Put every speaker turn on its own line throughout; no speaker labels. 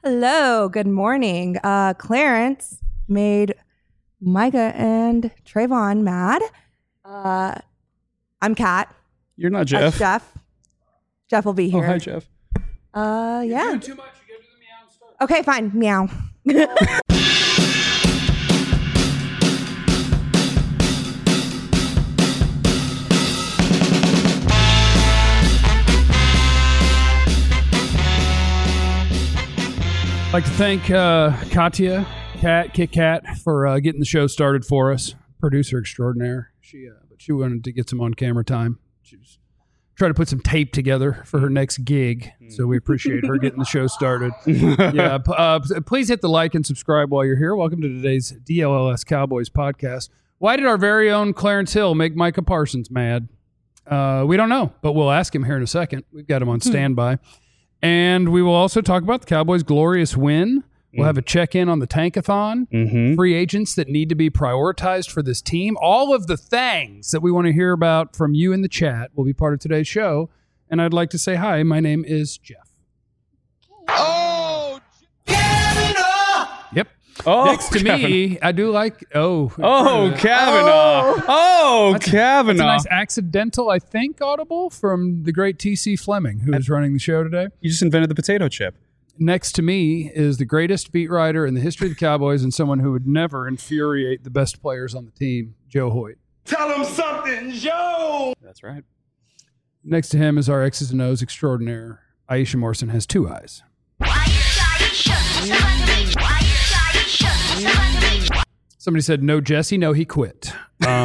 Hello, good morning. Clarence made Micah and Trayvon mad. I'm Kat.
You're not Jeff.
Jeff. Jeff will be here.
Oh, hi, Jeff.
Yeah.
You're doing too much. You gotta do the meow stuff.
Okay, fine. Meow.
I'd like to thank Katya, Kit Kat, for getting the show started for us. Producer extraordinaire. She wanted to get some on-camera time. She was trying to put some tape together for her next gig, so we appreciate her getting the show started. Yeah, please hit the like and subscribe while you're here. Welcome to today's DLLS Cowboys podcast. Why did our very own Clarence Hill make Micah Parsons mad? We don't know, but we'll ask him here in a second. We've got him on standby. And we will also talk about the Cowboys' glorious win. We'll have a check-in on the Tankathon, free agents that need to be prioritized for this team. All of the things that we want to hear about from you in the chat will be part of today's show. And I'd like to say hi. My name is Jeff.
Oh, Kavanaugh!
Yep.
Oh,
next to me, I do like...
Kavanaugh.
That's a
Kavanaugh.
nice accidental, I think, audible from the great T.C. Fleming, who is running the show today.
You just invented the potato chip.
Next to me is the greatest beat writer in the history of the Cowboys and someone who would never infuriate the best players on the team, Joe Hoyt.
Tell him something, Joe!
That's right.
Next to him is our X's and O's extraordinaire. Aisha Morrison has two eyes. Somebody said, no, Jesse. No, he quit.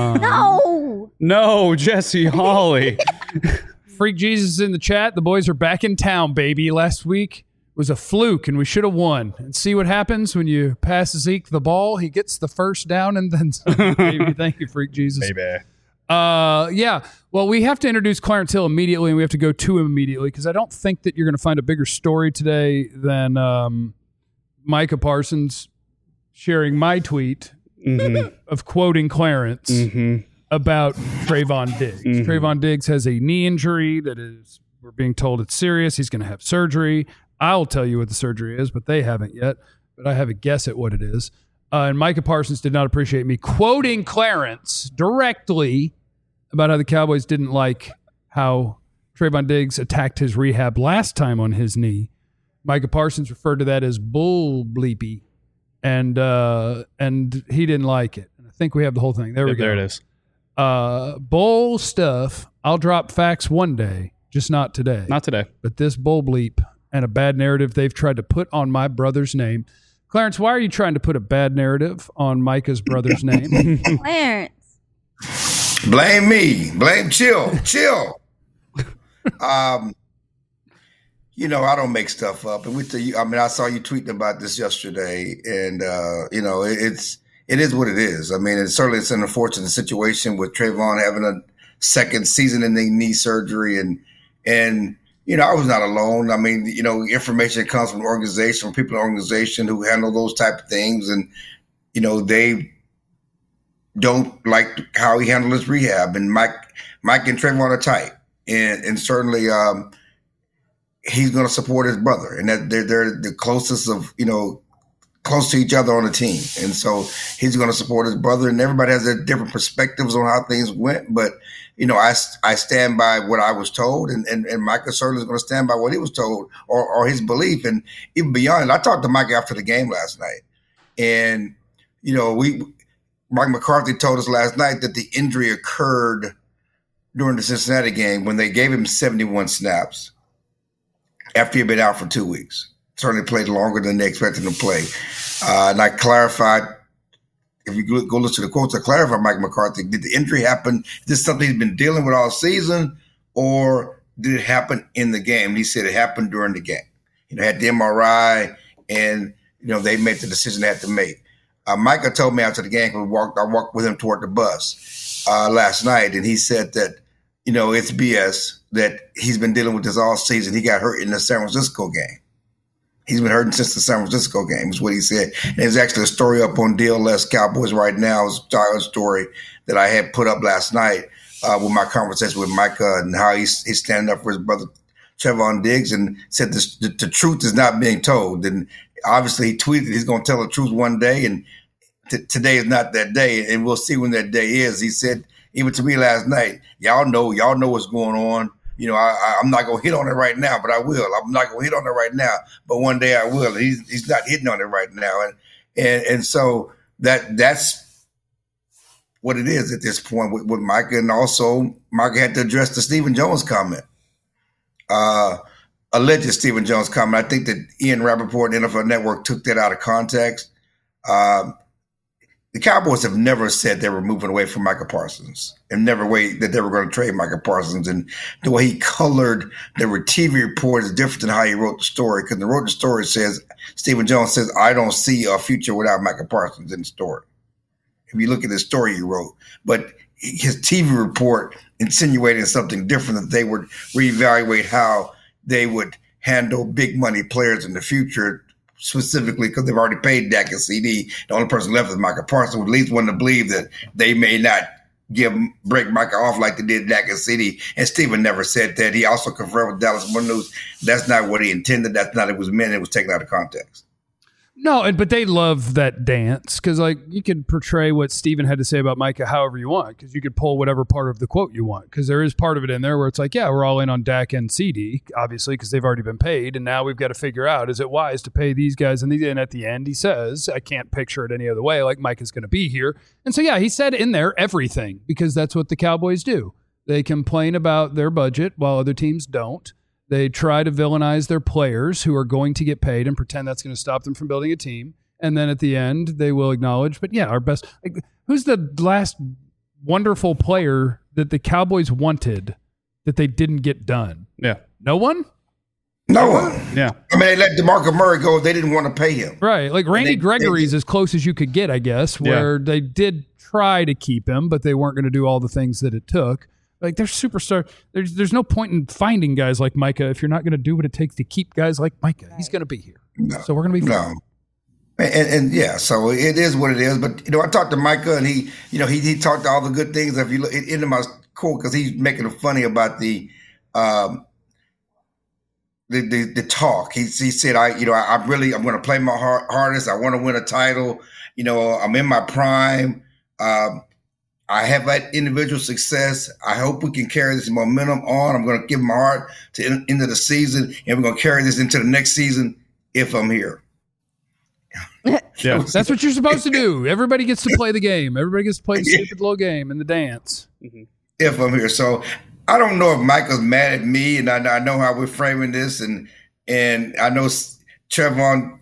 No, Jesse Hawley.
Freak Jesus is in the chat. The boys are back in town, baby. Last week was a fluke, and we should have won. And see what happens when you pass Zeke the ball. He gets the first down and then some. Baby. Thank you, Freak Jesus.
Baby.
Yeah. Well, we have to introduce Clarence Hill immediately, and we have to go to him immediately because I don't think that you're going to find a bigger story today than Micah Parsons sharing my tweet of quoting Clarence about Trayvon Diggs. Trayvon Diggs has a knee injury that is, we're being told it's serious. He's going to have surgery. I'll tell you what the surgery is, but they haven't yet. But I have a guess at what it is. And Micah Parsons did not appreciate me quoting Clarence directly about how the Cowboys didn't like how Trayvon Diggs attacked his rehab last time on his knee. Micah Parsons referred to that as bull bleepy, and he didn't like it. And I think we have the whole thing. There we go.
There it is.
Bull stuff. I'll drop facts one day, just not today.
Not today.
But this bull bleep and a bad narrative they've tried to put on my brother's name. Clarence, why are you trying to put a bad narrative on Micah's brother's name?
Clarence.
Blame me. Chill. I don't make stuff up. And I saw you tweeting about this yesterday, and it is what it is. I mean, it's an unfortunate situation with Trayvon having a second season in the knee surgery, and I was not alone. I mean, information comes from organization, from people in the organization who handle those type of things, and they don't like how he handled his rehab. And Mike and Trayvon are tight, and certainly he's going to support his brother, and that they're the closest of close to each other on the team. And so he's going to support his brother, and everybody has their different perspectives on how things went. But, I stand by what I was told, and Micah certainly is going to stand by what he was told or his belief. And even beyond it, I talked to Mike after the game last night, and, Mike McCarthy told us last night that the injury occurred during the Cincinnati game when they gave him 71 snaps after he had been out for 2 weeks. Certainly played longer than they expected him to play. And I clarified, if you go listen to the quotes, I clarified Mike McCarthy, did the injury happen? Is this something he's been dealing with all season, or did it happen in the game? And he said it happened during the game. Had the MRI, and, they made the decision they had to make. Micah told me after the game, I walked with him toward the bus last night, and he said that, it's BS, that he's been dealing with this all season. He got hurt in the San Francisco game. He's been hurting since the San Francisco game, is what he said. And there's actually a story up on DLS Cowboys right now. It's a story that I had put up last night with my conversation with Micah and how he's standing up for his brother Trevon Diggs and said the truth is not being told. And obviously he tweeted he's going to tell the truth one day, and today is not that day, and we'll see when that day is. He said, even to me last night, y'all know what's going on. I'm not going to hit on it right now, but I will. I'm not going to hit on it right now, but one day I will. And he's not hitting on it right now. And so that's what it is at this point with Micah. And also Micah had to address the Stephen Jones comment. Alleged Stephen Jones comment. I think that Ian Rappaport and NFL Network took that out of context. The Cowboys have never said they were moving away from Micah Parsons, and never that they were going to trade Micah Parsons. And the way he colored the TV report is different than how he wrote the story, because the wrote the story says, Stephen Jones says, I don't see a future without Micah Parsons in the story. If you look at the story he wrote, but his TV report insinuated something different, that they would reevaluate how they would handle big money players in the future, specifically because they've already paid Dak and CD. The only person left is Micah Parsons. At least wanted to believe that they may not break Micah off like they did Dak and CD. And Stephen never said that. He also confirmed with Dallas Morning News that's not what he intended. That's not what it was meant. It was taken out of context.
No, but they love that dance because, like, you can portray what Steven had to say about Micah however you want, because you could pull whatever part of the quote you want, because there is part of it in there where it's like, yeah, we're all in on Dak and CD, obviously, because they've already been paid, and now we've got to figure out, is it wise to pay these guys? And at the end, he says, I can't picture it any other way, like Micah's going to be here. And so, yeah, he said in there everything, because that's what the Cowboys do. They complain about their budget while other teams don't. They try to villainize their players who are going to get paid and pretend that's going to stop them from building a team. And then at the end, they will acknowledge, but yeah, our best. Like, who's the last wonderful player that the Cowboys wanted that they didn't get done?
Yeah.
No one?
No one.
Yeah.
I mean, they let DeMarco Murray go. They didn't want to pay him.
Right. Like Randy Gregory's as close as you could get, I guess, where they did try to keep him, but they weren't going to do all the things that it took. Like, they're superstar. There's no point in finding guys like Micah if you're not going to do what it takes to keep guys like Micah. He's going to be here.
No,
so we're going to be fine.
No. And yeah, so it is what it is. But, I talked to Micah, and he talked all the good things. If you look into my quote, because he's making it funny about the talk. He said, I'm going to play my hardest. I want to win a title. I'm in my prime. I have had individual success. I hope we can carry this momentum on. I'm going to give my heart to the end of the season, and we're going to carry this into the next season if I'm here.
Yeah, that's what you're supposed to do. Everybody gets to play the game. Everybody gets to play the stupid little game and the dance.
Mm-hmm.
If I'm here. So I don't know if Michael's mad at me, and I know how we're framing this, and I know Trevon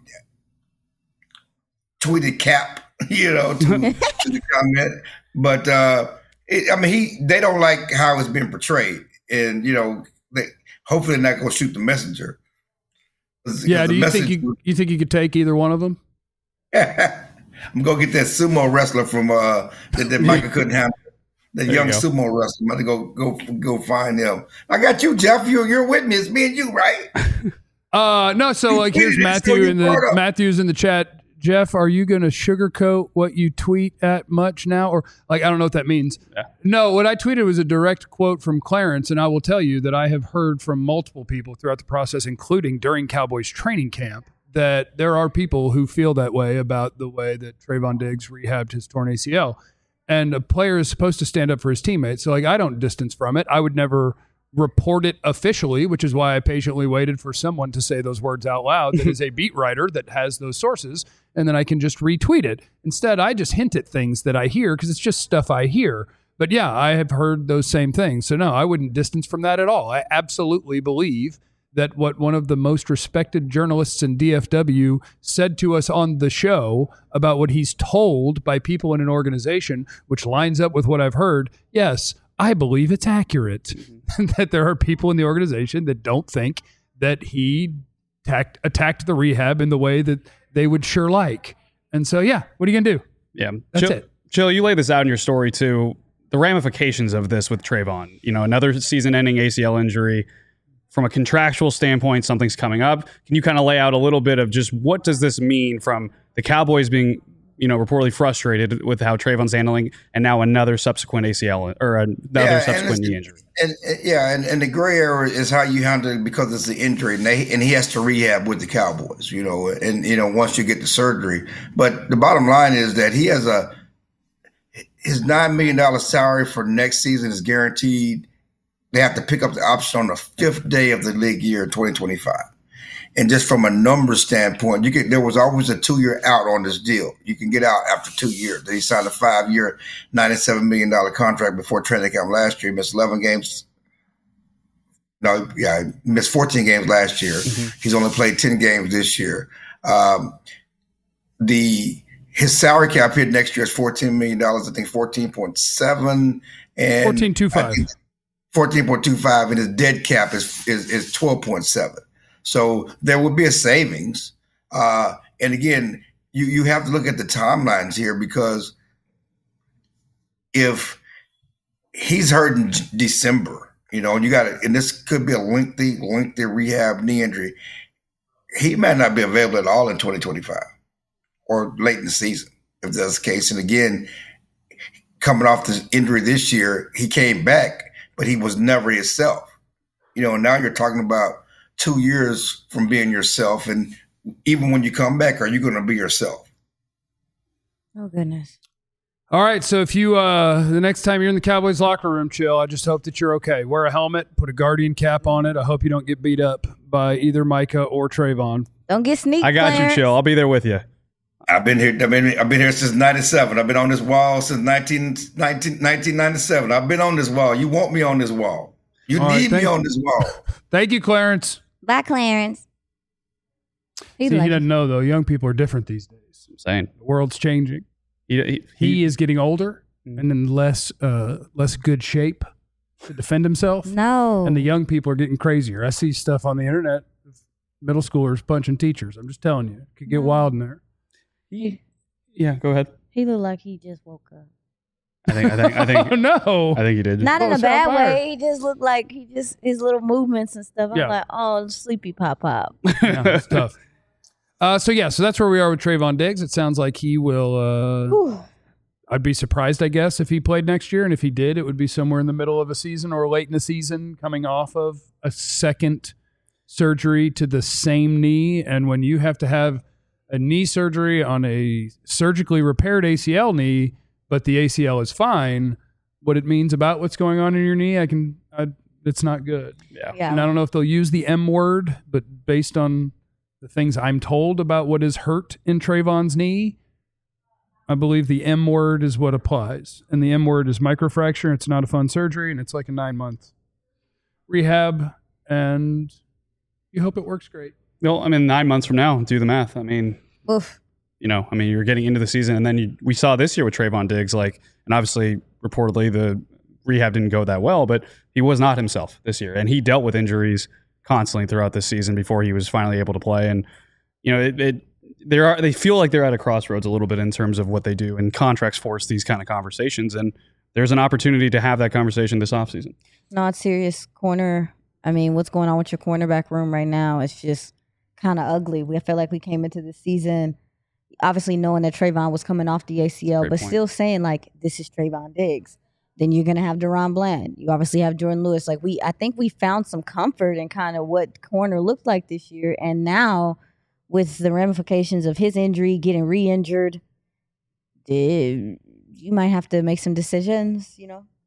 tweeted cap, to the comment. But they don't like how it's been portrayed, and hopefully they're not going to shoot the messenger.
Yeah, do you think you think you could take either one of them?
I'm gonna get that sumo wrestler from that Micah couldn't handle. That young sumo wrestler. I'm gonna go find him. I got you, Jeff. You're with me. It's me and you, right?
No. So here's Matthew Matthew's in the chat. Jeff, are you going to sugarcoat what you tweet at much now? Or I don't know what that means. Yeah. No, what I tweeted was a direct quote from Clarence, and I will tell you that I have heard from multiple people throughout the process, including during Cowboys training camp, that there are people who feel that way about the way that Trevon Diggs rehabbed his torn ACL. And a player is supposed to stand up for his teammates. So I don't distance from it. I would never report it officially, which is why I patiently waited for someone to say those words out loud that is a beat writer that has those sources, and then I can just retweet it. Instead, I just hint at things that I hear because it's just stuff I hear. But yeah, I have heard those same things. So no, I wouldn't distance from that at all. I absolutely believe that what one of the most respected journalists in DFW said to us on the show about what he's told by people in an organization, which lines up with what I've heard, yes, I believe it's accurate. That there are people in the organization that don't think that he attacked the rehab in the way that they would sure like. And so, yeah, what are you going to do?
Yeah.
That's it.
Jill, you lay this out in your story too. The ramifications of this with Trevon, another season-ending ACL injury. From a contractual standpoint, something's coming up. Can you kind of lay out a little bit of just what does this mean from the Cowboys being reportedly frustrated with how Trayvon's handling, and now another subsequent ACL or another subsequent knee injury.
And the gray area is how you handle it because it's the injury, and he has to rehab with the Cowboys, once you get the surgery. But the bottom line is that he has his $9 million salary for next season is guaranteed. They have to pick up the option on the 5th day of the league year, 2025. And just from a numbers standpoint, there was always a 2-year out on this deal. You can get out after 2 years. He signed a 5-year, $97 million contract before training camp last year. He missed 11 games. He missed 14 games last year. Mm-hmm. He's only played 10 games this year. His salary cap hit next year is $14 million. I think 14.7 and
14.25.
14.25, and his dead cap is 12.7. So there will be a savings. And again, you have to look at the timelines here, because if he's hurt in December, and this could be a lengthy rehab knee injury, he might not be available at all in 2025 or late in the season, if that's the case. And again, coming off this injury this year, he came back, but he was never himself. Now you're talking about 2 years from being yourself. And even when you come back, are you going to be yourself?
Oh, goodness.
All right. So if you, the next time you're in the Cowboys locker room, Chill, I just hope that you're okay. Wear a helmet, put a Guardian cap on it. I hope you don't get beat up by either Micah or Trayvon.
Don't get sneaked.
I got you, Chill. I'll be there with you.
I've been here since 97. I've been on this wall since 1997. I've been on this wall. You want me on this wall. You need me on this wall.
Thank you, Clarence.
Bye, Clarence.
He doesn't know, though. Young people are different these days.
I'm saying.
The world's changing. He is getting older and in less good shape to defend himself.
No.
And the young people are getting crazier. I see stuff on the internet of middle schoolers punching teachers. I'm just telling you. It could get wild in there.
Yeah, go ahead.
He looked like he just woke up.
I think.
Oh, no.
I think he did.
Not in a bad way. He just looked like his little movements and stuff. I'm like, oh, sleepy pop.
Yeah, that's tough. So that's where we are with Trayvon Diggs. It sounds like he will. I'd be surprised, I guess, if he played next year, and if he did, it would be somewhere in the middle of a season or late in the season, coming off of a second surgery to the same knee. And when you have to have a knee surgery on a surgically repaired ACL knee, but the ACL is fine, what it means about what's going on in your knee, it's not good.
Yeah.
And I don't know if they'll use the M word, but based on the things I'm told about what is hurt in Trayvon's knee, I believe the M word is what applies. And the M word is microfracture. It's not a fun surgery, and it's like a 9-month rehab, and you hope it works great.
Well, 9 months from now, do the math.
Oof.
You're getting into the season, and then we saw this year with Trayvon Diggs, and obviously, reportedly, the rehab didn't go that well, but he was not himself this year, and he dealt with injuries constantly throughout this season before he was finally able to play. And they feel like they're at a crossroads a little bit in terms of what they do, and contracts force these kind of conversations. And there's an opportunity to have that conversation this offseason.
Not serious corner. What's going on with your cornerback room right now? It's just kind of ugly. I feel like we came into the season obviously knowing that Trayvon was coming off the ACL,
Great
but
point.
still saying this is Trayvon Diggs. Then you're gonna have Deron Bland. You obviously have Jordan Lewis. I think we found some comfort in kind of what corner looked like this year, and now with the ramifications of his injury, getting re-injured, you might have to make some decisions.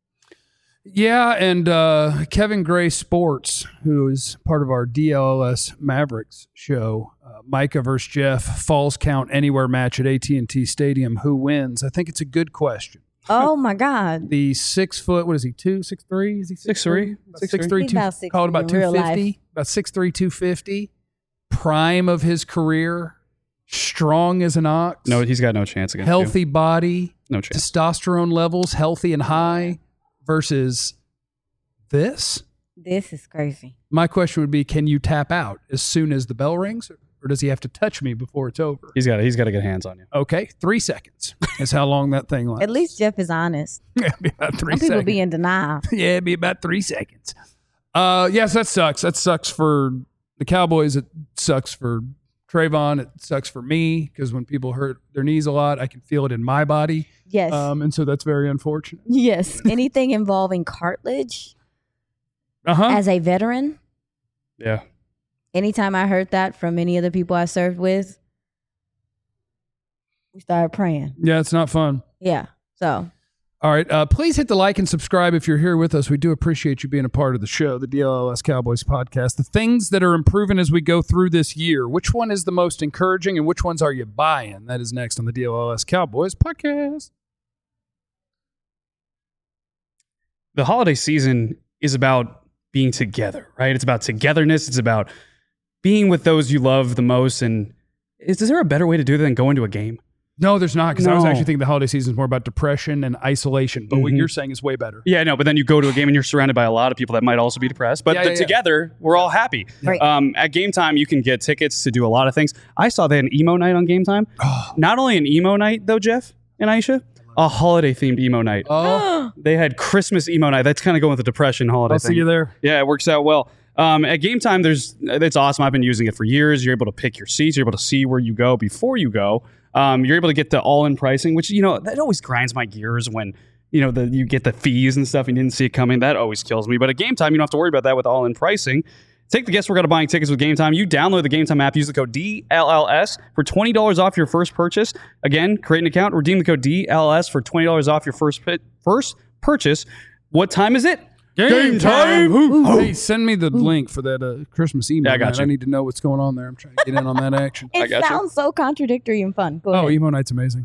Yeah, and Kevin Gray Sports, who is part of our DLS Mavericks show, Micah versus Jeff, Falls Count Anywhere match at AT&T Stadium. Who wins? I think it's a good question.
Oh, my God.
The 6 foot, what is he, 6'3"? Is he 6'3"? 6'3",
He's about 6'3"
call it about
in real
250.
life.
About 6'3", 250. Prime of his career. Strong as an ox.
No, he's got no chance against
Healthy
you.
body.
No chance.
Testosterone levels healthy and high versus this.
This is crazy.
My question would be, can you tap out as soon as the bell rings, or does he have to touch me before it's over?
He's got to get hands on you.
Okay, 3 seconds is how long that thing lasts.
At least Jeff is honest.
Yeah, it'd be about 3
Some
seconds.
people be in denial.
Yeah, it'd be about 3 seconds. Yes, that sucks. That sucks for the Cowboys. It sucks for Trayvon, it sucks for me because when people hurt their knees a lot, I can feel it in my body.
Yes.
And so that's very unfortunate.
Yes. Anything involving cartilage as a veteran.
Yeah.
Anytime I heard that from any of the people I served with, we started praying.
Yeah, it's not fun.
Yeah. So.
All right. Please hit the like and subscribe if you're here with us. We do appreciate you being a part of the show, the DLLS Cowboys podcast. The things that are improving as we go through this year. Which one is the most encouraging and which ones are you buying? That is next on the DLLS Cowboys podcast.
The holiday season is about being together, right? It's about togetherness. It's about being with those you love the most. And is there a better way to do that than going to a game?
No, there's not, because I was
No.
actually thinking the holiday season is more about depression and isolation. But what you're saying is way better.
Yeah, no, but then you go to a game and you're surrounded by a lot of people that might also be depressed. But
Yeah.
together, we're all happy.
Right.
At Game Time, you can get tickets to do a lot of things. I saw they had an emo night on Game Time. Not only an emo night, though, Jeff and Aisha, a holiday-themed emo night.
Oh,
They had Christmas emo night. That's kind of going with the depression holiday
I'll
thing.
see you there.
Yeah, it works out well. At Game Time, it's awesome. I've been using it for years. You're able to pick your seats. You're able to see where you go before you go. You're able to get the all-in pricing, which, that always grinds my gears when, you get the fees and stuff and you didn't see it coming. That always kills me. But at Game Time, you don't have to worry about that with all-in pricing. Take the guesswork out of buying tickets with Game Time. You download the Game Time app, use the code DLLS for $20 off your first purchase. Again, create an account, redeem the code DLLS for $20 off your first purchase. What time is it?
Game time! Hey, send me the link for that Christmas email.
Yeah, I got you.
I need to know what's going on there. I'm trying to get in on that action.
It
got you.
sounds so contradictory and fun. Go
Oh,
ahead.
Emo Night's amazing.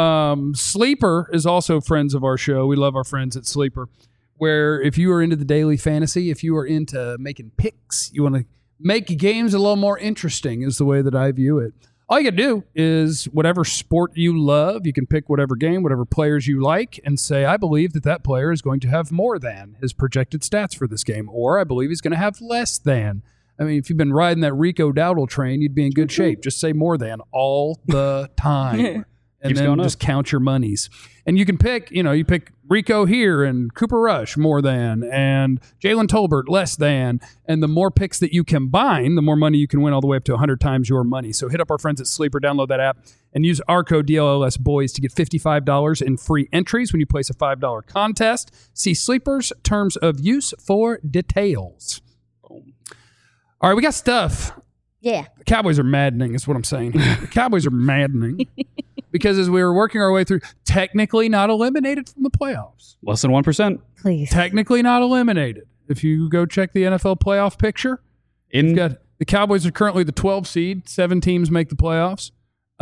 Sleeper is also friends of our show. We love our friends at Sleeper, where if you are into the daily fantasy, if you are into making picks, you want to make games a little more interesting is the way that I view it. All you got to do is whatever sport you love, you can pick whatever game, whatever players you like, and say, I believe that player is going to have more than his projected stats for this game, or I believe he's going to have less than. I mean, if you've been riding that Rico Dowdle train, you'd be in good shape. Just say more than all the time. And
Keeps
then
going up.
just count your monies. And you can pick, you pick Rico here and Cooper Rush more than, and Jalen Tolbert less than. And the more picks that you combine, the more money you can win, all the way up to 100 times your money. So hit up our friends at Sleeper, download that app, and use our code DLLS Boys to get $55 in free entries when you place a $5 contest. See Sleeper's terms of use for details. All right, we got stuff.
Yeah.
The Cowboys are maddening, is what I'm saying. The Cowboys are maddening because as we were working our way through, technically not eliminated from the playoffs.
Less than 1%.
Please.
Technically not eliminated. If you go check the NFL playoff picture, you've got the Cowboys are currently the 12 seed. 7 teams make the playoffs.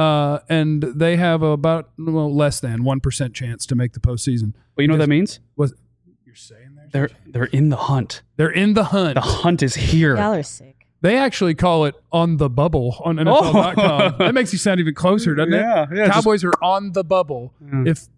And they have about less than 1% chance to make the postseason.
But you know what that means?
What you're saying there?
They're in the hunt.
They're in the hunt.
The hunt is here.
Y'all are sick.
They actually call it on the bubble on NFL.com. That makes you sound even closer, doesn't it?
Yeah.
Cowboys are on the bubble. If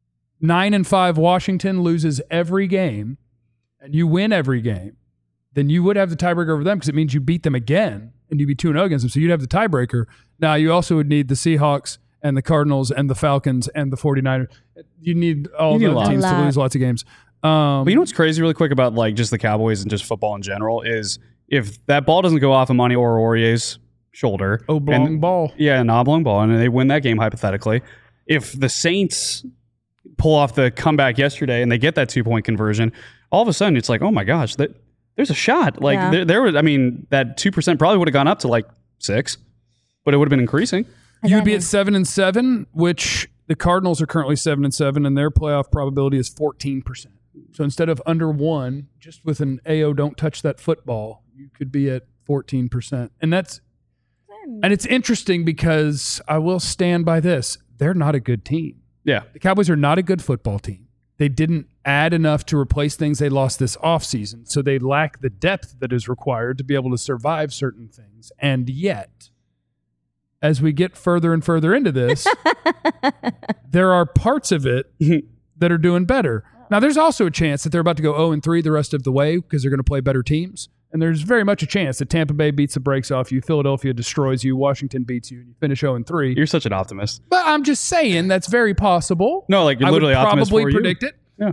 9-5 Washington loses every game and you win every game, then you would have the tiebreaker over them because it means you beat them again and you'd be 2-0 against them. So you'd have the tiebreaker. Now, you also would need the Seahawks and the Cardinals and the Falcons and the 49ers. You need all
You need a
the
lot.
teams to lose lots of games.
But you know what's crazy really quick about just the Cowboys and just football in general is if that ball doesn't go off of Monty Orure's shoulder.
Oblong ball.
Yeah, an oblong ball, and they win that game hypothetically. If the Saints pull off the comeback yesterday and they get that 2-point conversion, all of a sudden it's like, oh my gosh, there's a shot. Like
Yeah.
there was, that 2% probably would have gone up to 6, but it would have been increasing.
You'd be at 7-7, which the Cardinals are currently 7-7, and their playoff probability is 14%. So instead of under 1, just with an AO don't touch that football, you could be at 14%. And it's interesting because I will stand by this. They're not a good team.
Yeah.
The Cowboys are not a good football team. They didn't add enough to replace things they lost this offseason. So they lack the depth that is required to be able to survive certain things. And yet, as we get further and further into this, there are parts of it that are doing better. Now, there's also a chance that they're about to go 0-3 the rest of the way because they're going to play better teams. And there's very much a chance that Tampa Bay beats the brakes off you, Philadelphia destroys you, Washington beats you, and you finish 0-3.
You're such an optimist.
But I'm just saying that's very possible.
No, you're literally
I would
optimist
probably
for
predict it.
Yeah.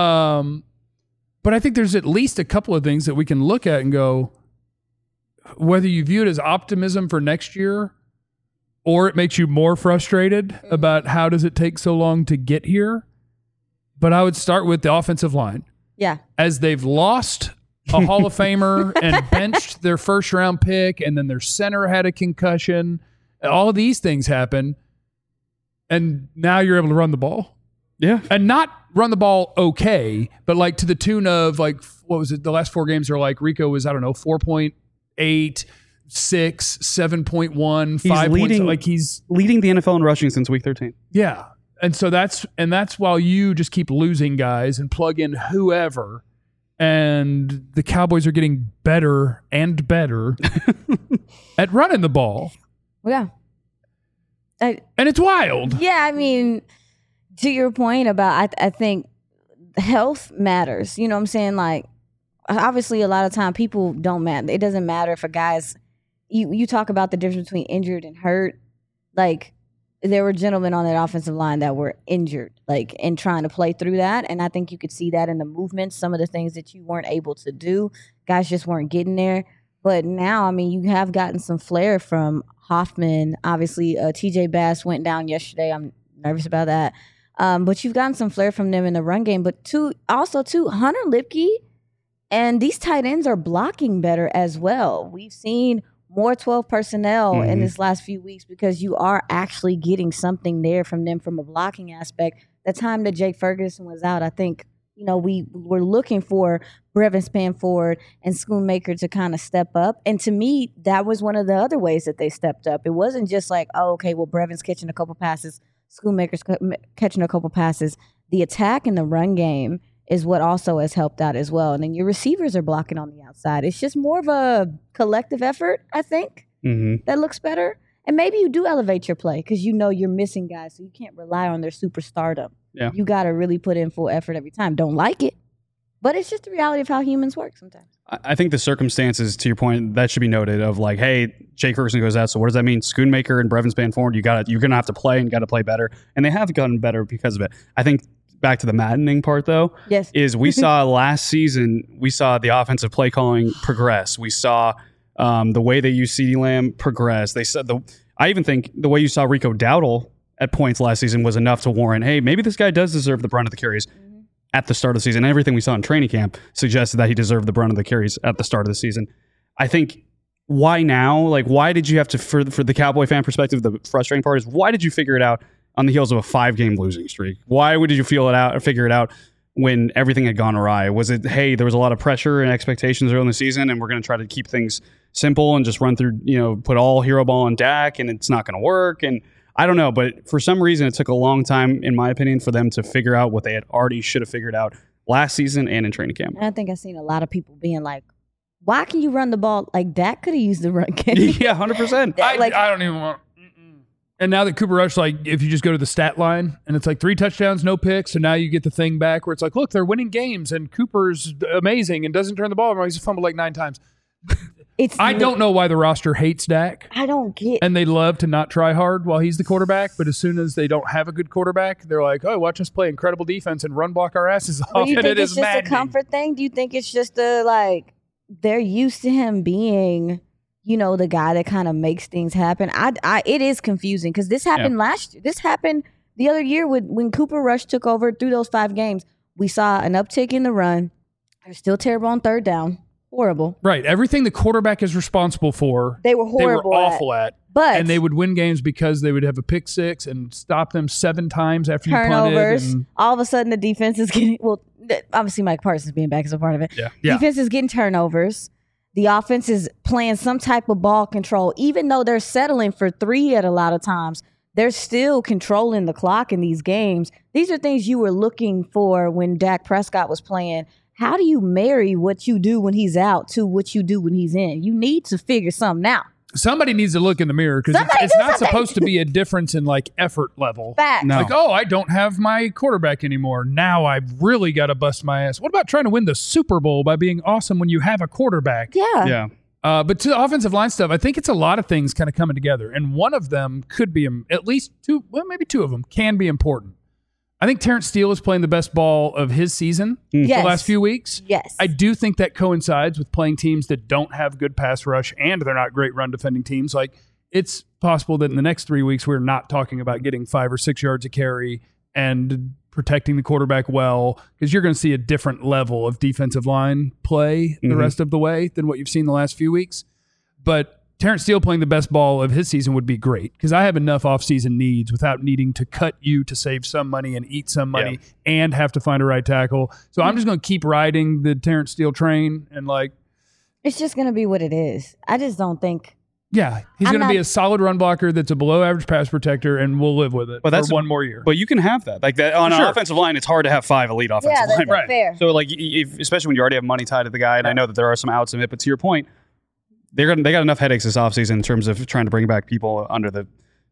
But I think there's at least a couple of things that we can look at and go, whether you view it as optimism for next year or it makes you more frustrated about how does it take so long to get here. But I would start with the offensive line.
Yeah.
As they've lost a Hall of Famer and benched their first round pick, and then their center had a concussion. All of these things happen. And now you're able to run the ball.
Yeah.
And not run the ball okay, but like to the tune of like, what was it? The last 4 games are like Rico was, I don't know, 4.8, 6, 7.1, 5 points. Like he's
leading the NFL in rushing since week 13.
Yeah. And so that's while you just keep losing guys and plug in whoever, and the Cowboys are getting better and better at running the ball.
Yeah.
And it's wild.
Yeah, I mean, to your point about, I think health matters. You know what I'm saying? Like, obviously, a lot of time people don't matter. It doesn't matter if a guy's, you talk about the difference between injured and hurt. Like, there were gentlemen on that offensive line that were injured, like, and trying to play through that. And I think you could see that in the movements, some of the things that you weren't able to do. Guys just weren't getting there. But now, I mean, you have gotten some flair from Hoffman. Obviously, TJ Bass went down yesterday. I'm nervous about that. But you've gotten some flair from them in the run game. But also, Hunter Lipke and these tight ends are blocking better as well. We've seen more 12 personnel in this last few weeks because you are actually getting something there from them from a blocking aspect. The time that Jake Ferguson was out, I think, you know, we were looking for Brevin Spanford and Schoonmaker to kind of step up. And to me, that was one of the other ways that they stepped up. It wasn't just like, oh, okay, well, Brevin's catching a couple passes, Schoonmaker's catching a couple passes. The attack in the run game is what also has helped out as well. And then your receivers are blocking on the outside. It's just more of a collective effort, I think, that looks better. And maybe you do elevate your play because you know you're missing guys, so you can't rely on their superstardom.
Yeah.
You got to really put in full effort every time. Don't like it, but it's just the reality of how humans work sometimes.
I think the circumstances, to your point, that should be noted of like, hey, Jake Ferguson goes out, so what does that mean? Schoonmaker and Brevin Spanford, you're going to have to play and got to play better. And they have gotten better because of it. I think back to the maddening part, though, is we saw last season, we saw the offensive play calling progress. We saw the way they used CeeDee Lamb progress. They said I even think the way you saw Rico Dowdle at points last season was enough to warrant, hey, maybe this guy does deserve the brunt of the carries at the start of the season. Everything we saw in training camp suggested that he deserved the brunt of the carries at the start of the season. I think, why now? Like, why did you have to, for the Cowboy fan perspective, the frustrating part is, why did you figure it out on the heels of a 5-game losing streak? Why did you figure it out when everything had gone awry? Was it, hey, there was a lot of pressure and expectations early in the season, and we're going to try to keep things simple and just run through, put all hero ball on Dak, and it's not going to work? And I don't know, but for some reason, it took a long time, in my opinion, for them to figure out what they had already should have figured out last season and in training camp.
And I think I've seen a lot of people being like, why can you run the ball? Like, Dak could have used the run game.
Yeah, 100%.
I don't even want. And now that Cooper Rush, like, if you just go to the stat line and it's like 3 touchdowns, no picks, so now you get the thing back where it's like, look, they're winning games and Cooper's amazing and doesn't turn the ball over. He's fumbled like 9 times. I don't know why the roster hates Dak.
I don't get.
And they love to not try hard while he's the quarterback, but as soon as they don't have a good quarterback, they're like, oh, watch us play incredible defense and run block our asses off.
Do you
and
think
it
it's
is
just
maddening.
a comfort thing? Do you think it's just they're used to him being, the guy that kind of makes things happen? It is confusing because this happened last year. This happened the other year when Cooper Rush took over through those 5 games. We saw an uptick in the run. They're still terrible on third down. Horrible.
Right. Everything the quarterback is responsible for,
they were horrible.
They were awful at.
But
and they would win games because they would have a pick 6 and stop them 7 times after
turnovers.
You punted.
All of a sudden, the defense is getting obviously Mike Parsons being back is a part of it.
Yeah.
Defense is getting turnovers. The offense is playing some type of ball control, even though they're settling for 3 at a lot of times. They're still controlling the clock in these games. These are things you were looking for when Dak Prescott was playing. How do you marry what you do when he's out to what you do when he's in? You need to figure something out.
Somebody needs to look in the mirror because it's not supposed to be a difference in like effort level.
Fact.
No.
Like, oh, I don't have my quarterback anymore. Now I've really got to bust my ass. What about trying to win the Super Bowl by being awesome when you have a quarterback?
Yeah.
But to the offensive line stuff, I think it's a lot of things kind of coming together. And one of them could be at least 2, well, maybe 2 of them can be important. I think Terrence Steele is playing the best ball of his season the last few weeks.
Yes.
I do think that coincides with playing teams that don't have good pass rush and they're not great run defending teams. Like, it's possible that in the next 3 weeks, we're not talking about getting 5 or 6 yards of carry and protecting the quarterback well, because you're going to see a different level of defensive line play the rest of the way than what you've seen the last few weeks. But Terrence Steele playing the best ball of his season would be great, because I have enough offseason needs without needing to cut you to save some money and eat some money and have to find a right tackle. So I'm just going to keep riding the Terrence Steele train and
it's just going to be what it is. I just don't think.
Yeah, he's going to be a solid run blocker that's a below average pass protector, and we'll live with it for one more year.
But you can have that. Like that on an offensive line, it's hard to have 5 elite offensive linemen.
That's fair.
So especially when you already have money tied to the guy, and I know that there are some outs of it, but to your point, they got enough headaches this offseason in terms of trying to bring back people under the,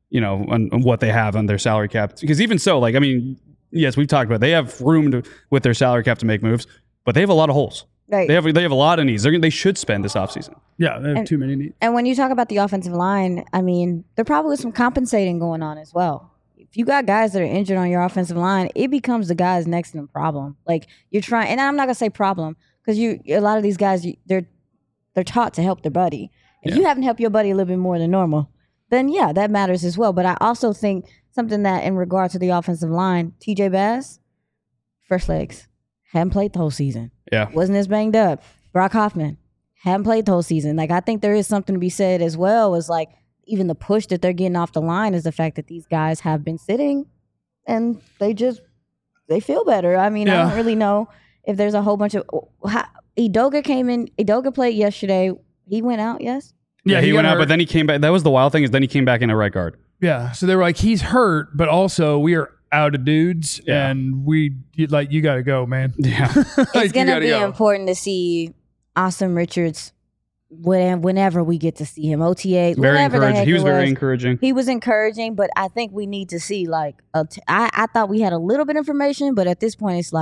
on what they have on their salary cap. Because even so, yes, we've talked about it. They have room with their salary cap to make moves, but they have a lot of holes.
Right.
They have a lot of needs. They should spend this offseason.
Yeah, they have too many needs.
And when you talk about the offensive line, I mean, there probably was some compensating going on as well. If you got guys that are injured on your offensive line, it becomes the guys next to them problem. Like you're trying, and I'm not gonna say problem, because a lot of these guys they're taught to help their buddy. If you haven't helped your buddy a little bit more than normal, then yeah, that matters as well. But I also think something that in regard to the offensive line, TJ Bass, first legs, hadn't played the whole season.
Yeah.
Wasn't as banged up. Brock Hoffman, hadn't played the whole season. I think there is something to be said as well as even the push that they're getting off the line is the fact that these guys have been sitting and they feel better. I mean, I don't really know if there's a whole bunch of Edoga came in. Edoga played yesterday. He went out, yes?
Yeah, he went out, but then he came back. That was the wild thing, is then he came back in a right guard.
Yeah, so they were like, he's hurt, but also we are out of dudes, and you got to go, man.
Yeah.
It's going to be important to see Austin Richards whenever we get to see him. OTA,
very encouraging. He was very encouraging.
He was encouraging, but I think we need to see, I thought we had a little bit of information, but at this point, it's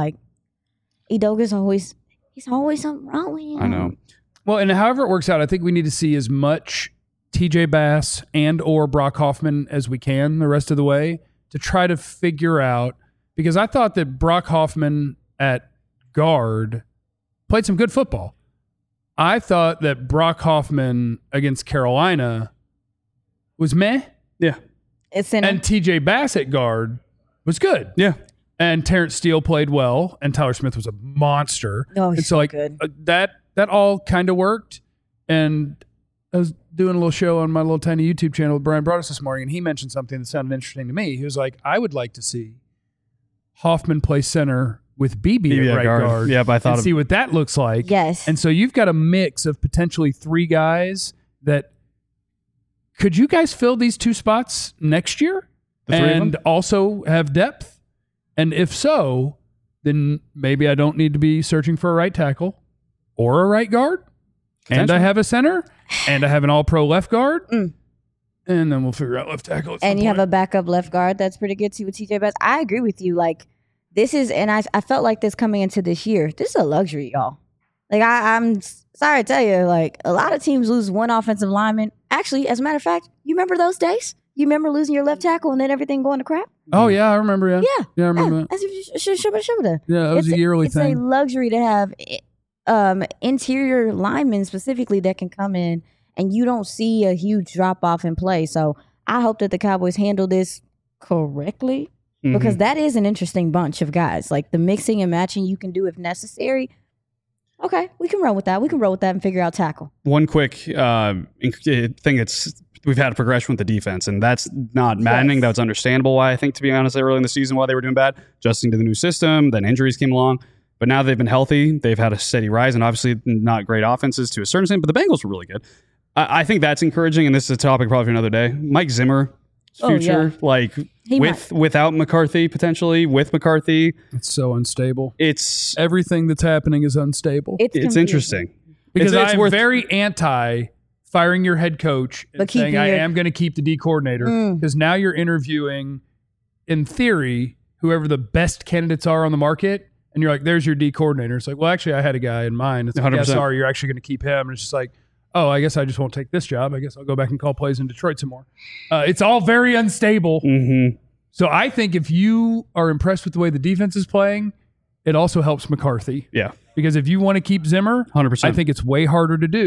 Edoga's he's always something wrong with him.
I know.
Well, and however it works out, I think we need to see as much TJ Bass and or Brock Hoffman as we can the rest of the way to try to figure out, because I thought that Brock Hoffman at guard played some good football. I thought that Brock Hoffman against Carolina was meh.
Yeah.
And TJ Bass at guard was good.
Yeah.
And Terrence Steele played well, and Tyler Smith was a monster.
Oh, he's so good.
That all kind of worked. And I was doing a little show on my little tiny YouTube channel with Brian Broaddus this morning, and he mentioned something that sounded interesting to me. He was like, I would like to see Hoffman play center with BB at right guard.
Yeah, but I thought
see what that looks like.
Yes.
And so you've got a mix of potentially 3 guys that could you guys fill these 2 spots next year and also have depth? And if so, then maybe I don't need to be searching for a right tackle or a right guard. And I have a center, and I have an all-pro left guard, and then we'll figure out left tackle at some
And you
point.
have a backup left guard that's pretty good too with TJ Bass. I agree with you. This is, and I felt like this coming into this year. This is a luxury, y'all. I'm sorry to tell you, a lot of teams lose one offensive lineman. Actually, as a matter of fact, you remember those days? You remember losing your left tackle and then everything going to crap?
Oh, yeah, I remember, yeah.
Yeah.
I remember that. Yeah, it was a yearly thing.
It's a luxury to have interior linemen specifically that can come in and you don't see a huge drop off in play. So I hope that the Cowboys handle this correctly, because that is an interesting bunch of guys. The mixing and matching you can do if necessary. Okay, we can run with that. We can roll with that and figure out tackle.
One quick thing that's we've had a progression with the defense, and that's not maddening. That's understandable why, I think, to be honest, early in the season why they were doing bad, adjusting to the new system, then injuries came along. But now they've been healthy. They've had a steady rise, and obviously not great offenses to a certain extent, but the Bengals were really good. I think that's encouraging, and this is a topic probably for another day. Mike Zimmer, future, without McCarthy, potentially, with McCarthy.
It's so unstable.
It's
everything that's happening is unstable.
It's interesting.
Because I'm very anti firing your head coach and saying I am going to keep the D coordinator, because now you're interviewing, in theory, whoever the best candidates are on the market. And you're like, there's your D coordinator. It's like, well, actually, I had a guy in mind. It's like, yeah, sorry, you're actually going to keep him. And it's just like, oh, I guess I just won't take this job. I guess I'll go back and call plays in Detroit some more. It's all very unstable. So I think if you are impressed with the way the defense is playing, it also helps McCarthy.
Yeah.
Because if you want to keep Zimmer,
100%.
I think it's way harder to do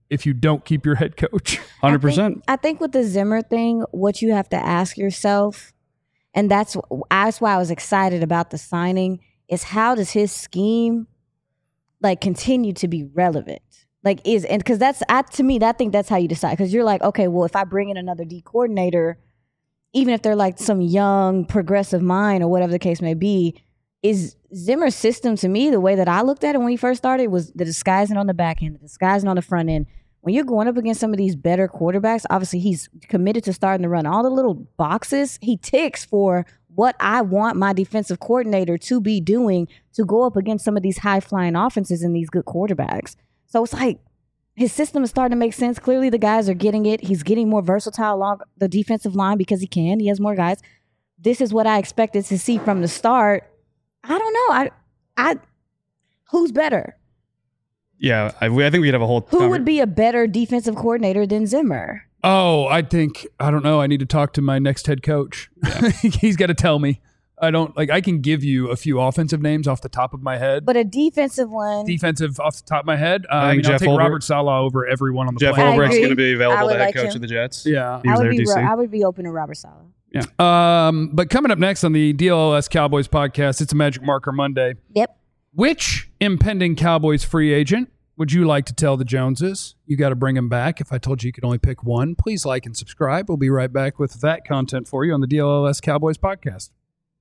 if you don't keep your head coach.
100%.
I think with the Zimmer thing, what you have to ask yourself, and that's why I was excited about the signing, is how does his scheme like continue to be relevant? Like because to me, I think that's how you decide. Because you're like, okay, well, if I bring in another D coordinator, even if they're like some young progressive mind or whatever the case may be, is Zimmer's system, to me, the way that I looked at it when he first started, was the disguising on the back end, the disguising on the front end. When you're going up against some of these better quarterbacks, obviously he's committed to starting to run all the little boxes. He ticks for what I want my defensive coordinator to be doing to go up against some of these high-flying offenses and these good quarterbacks. So it's like his system is starting to make sense. Clearly the guys are getting it. He's getting more versatile along the defensive line because he can. He has more guys. This is what I expected to see from the start. I don't know. I who's better?
Yeah, I think we'd have a whole.
Who would be a better defensive coordinator than Zimmer?
Oh, I don't know. I need to talk to my next head coach. Yeah. He's got to tell me. I can give you a few offensive names off the top of my head.
But a defensive one.
Defensive off the top of my head.
I think
I'll take Robert Saleh over everyone on the
Jeff
planet.
Ulbricht's going to be available to head
like
coach
him.
of the Jets.
Yeah.
He was there, DC.
I would be open to Robert Saleh.
Yeah.
But coming up next on the DLLS Cowboys podcast, it's a Magic Marker Monday.
Yep.
Which impending Cowboys free agent would you like to tell the Joneses you got to bring him back? If I told you could only pick one, please like and subscribe. We'll be right back with that content for you on the DLLS Cowboys podcast.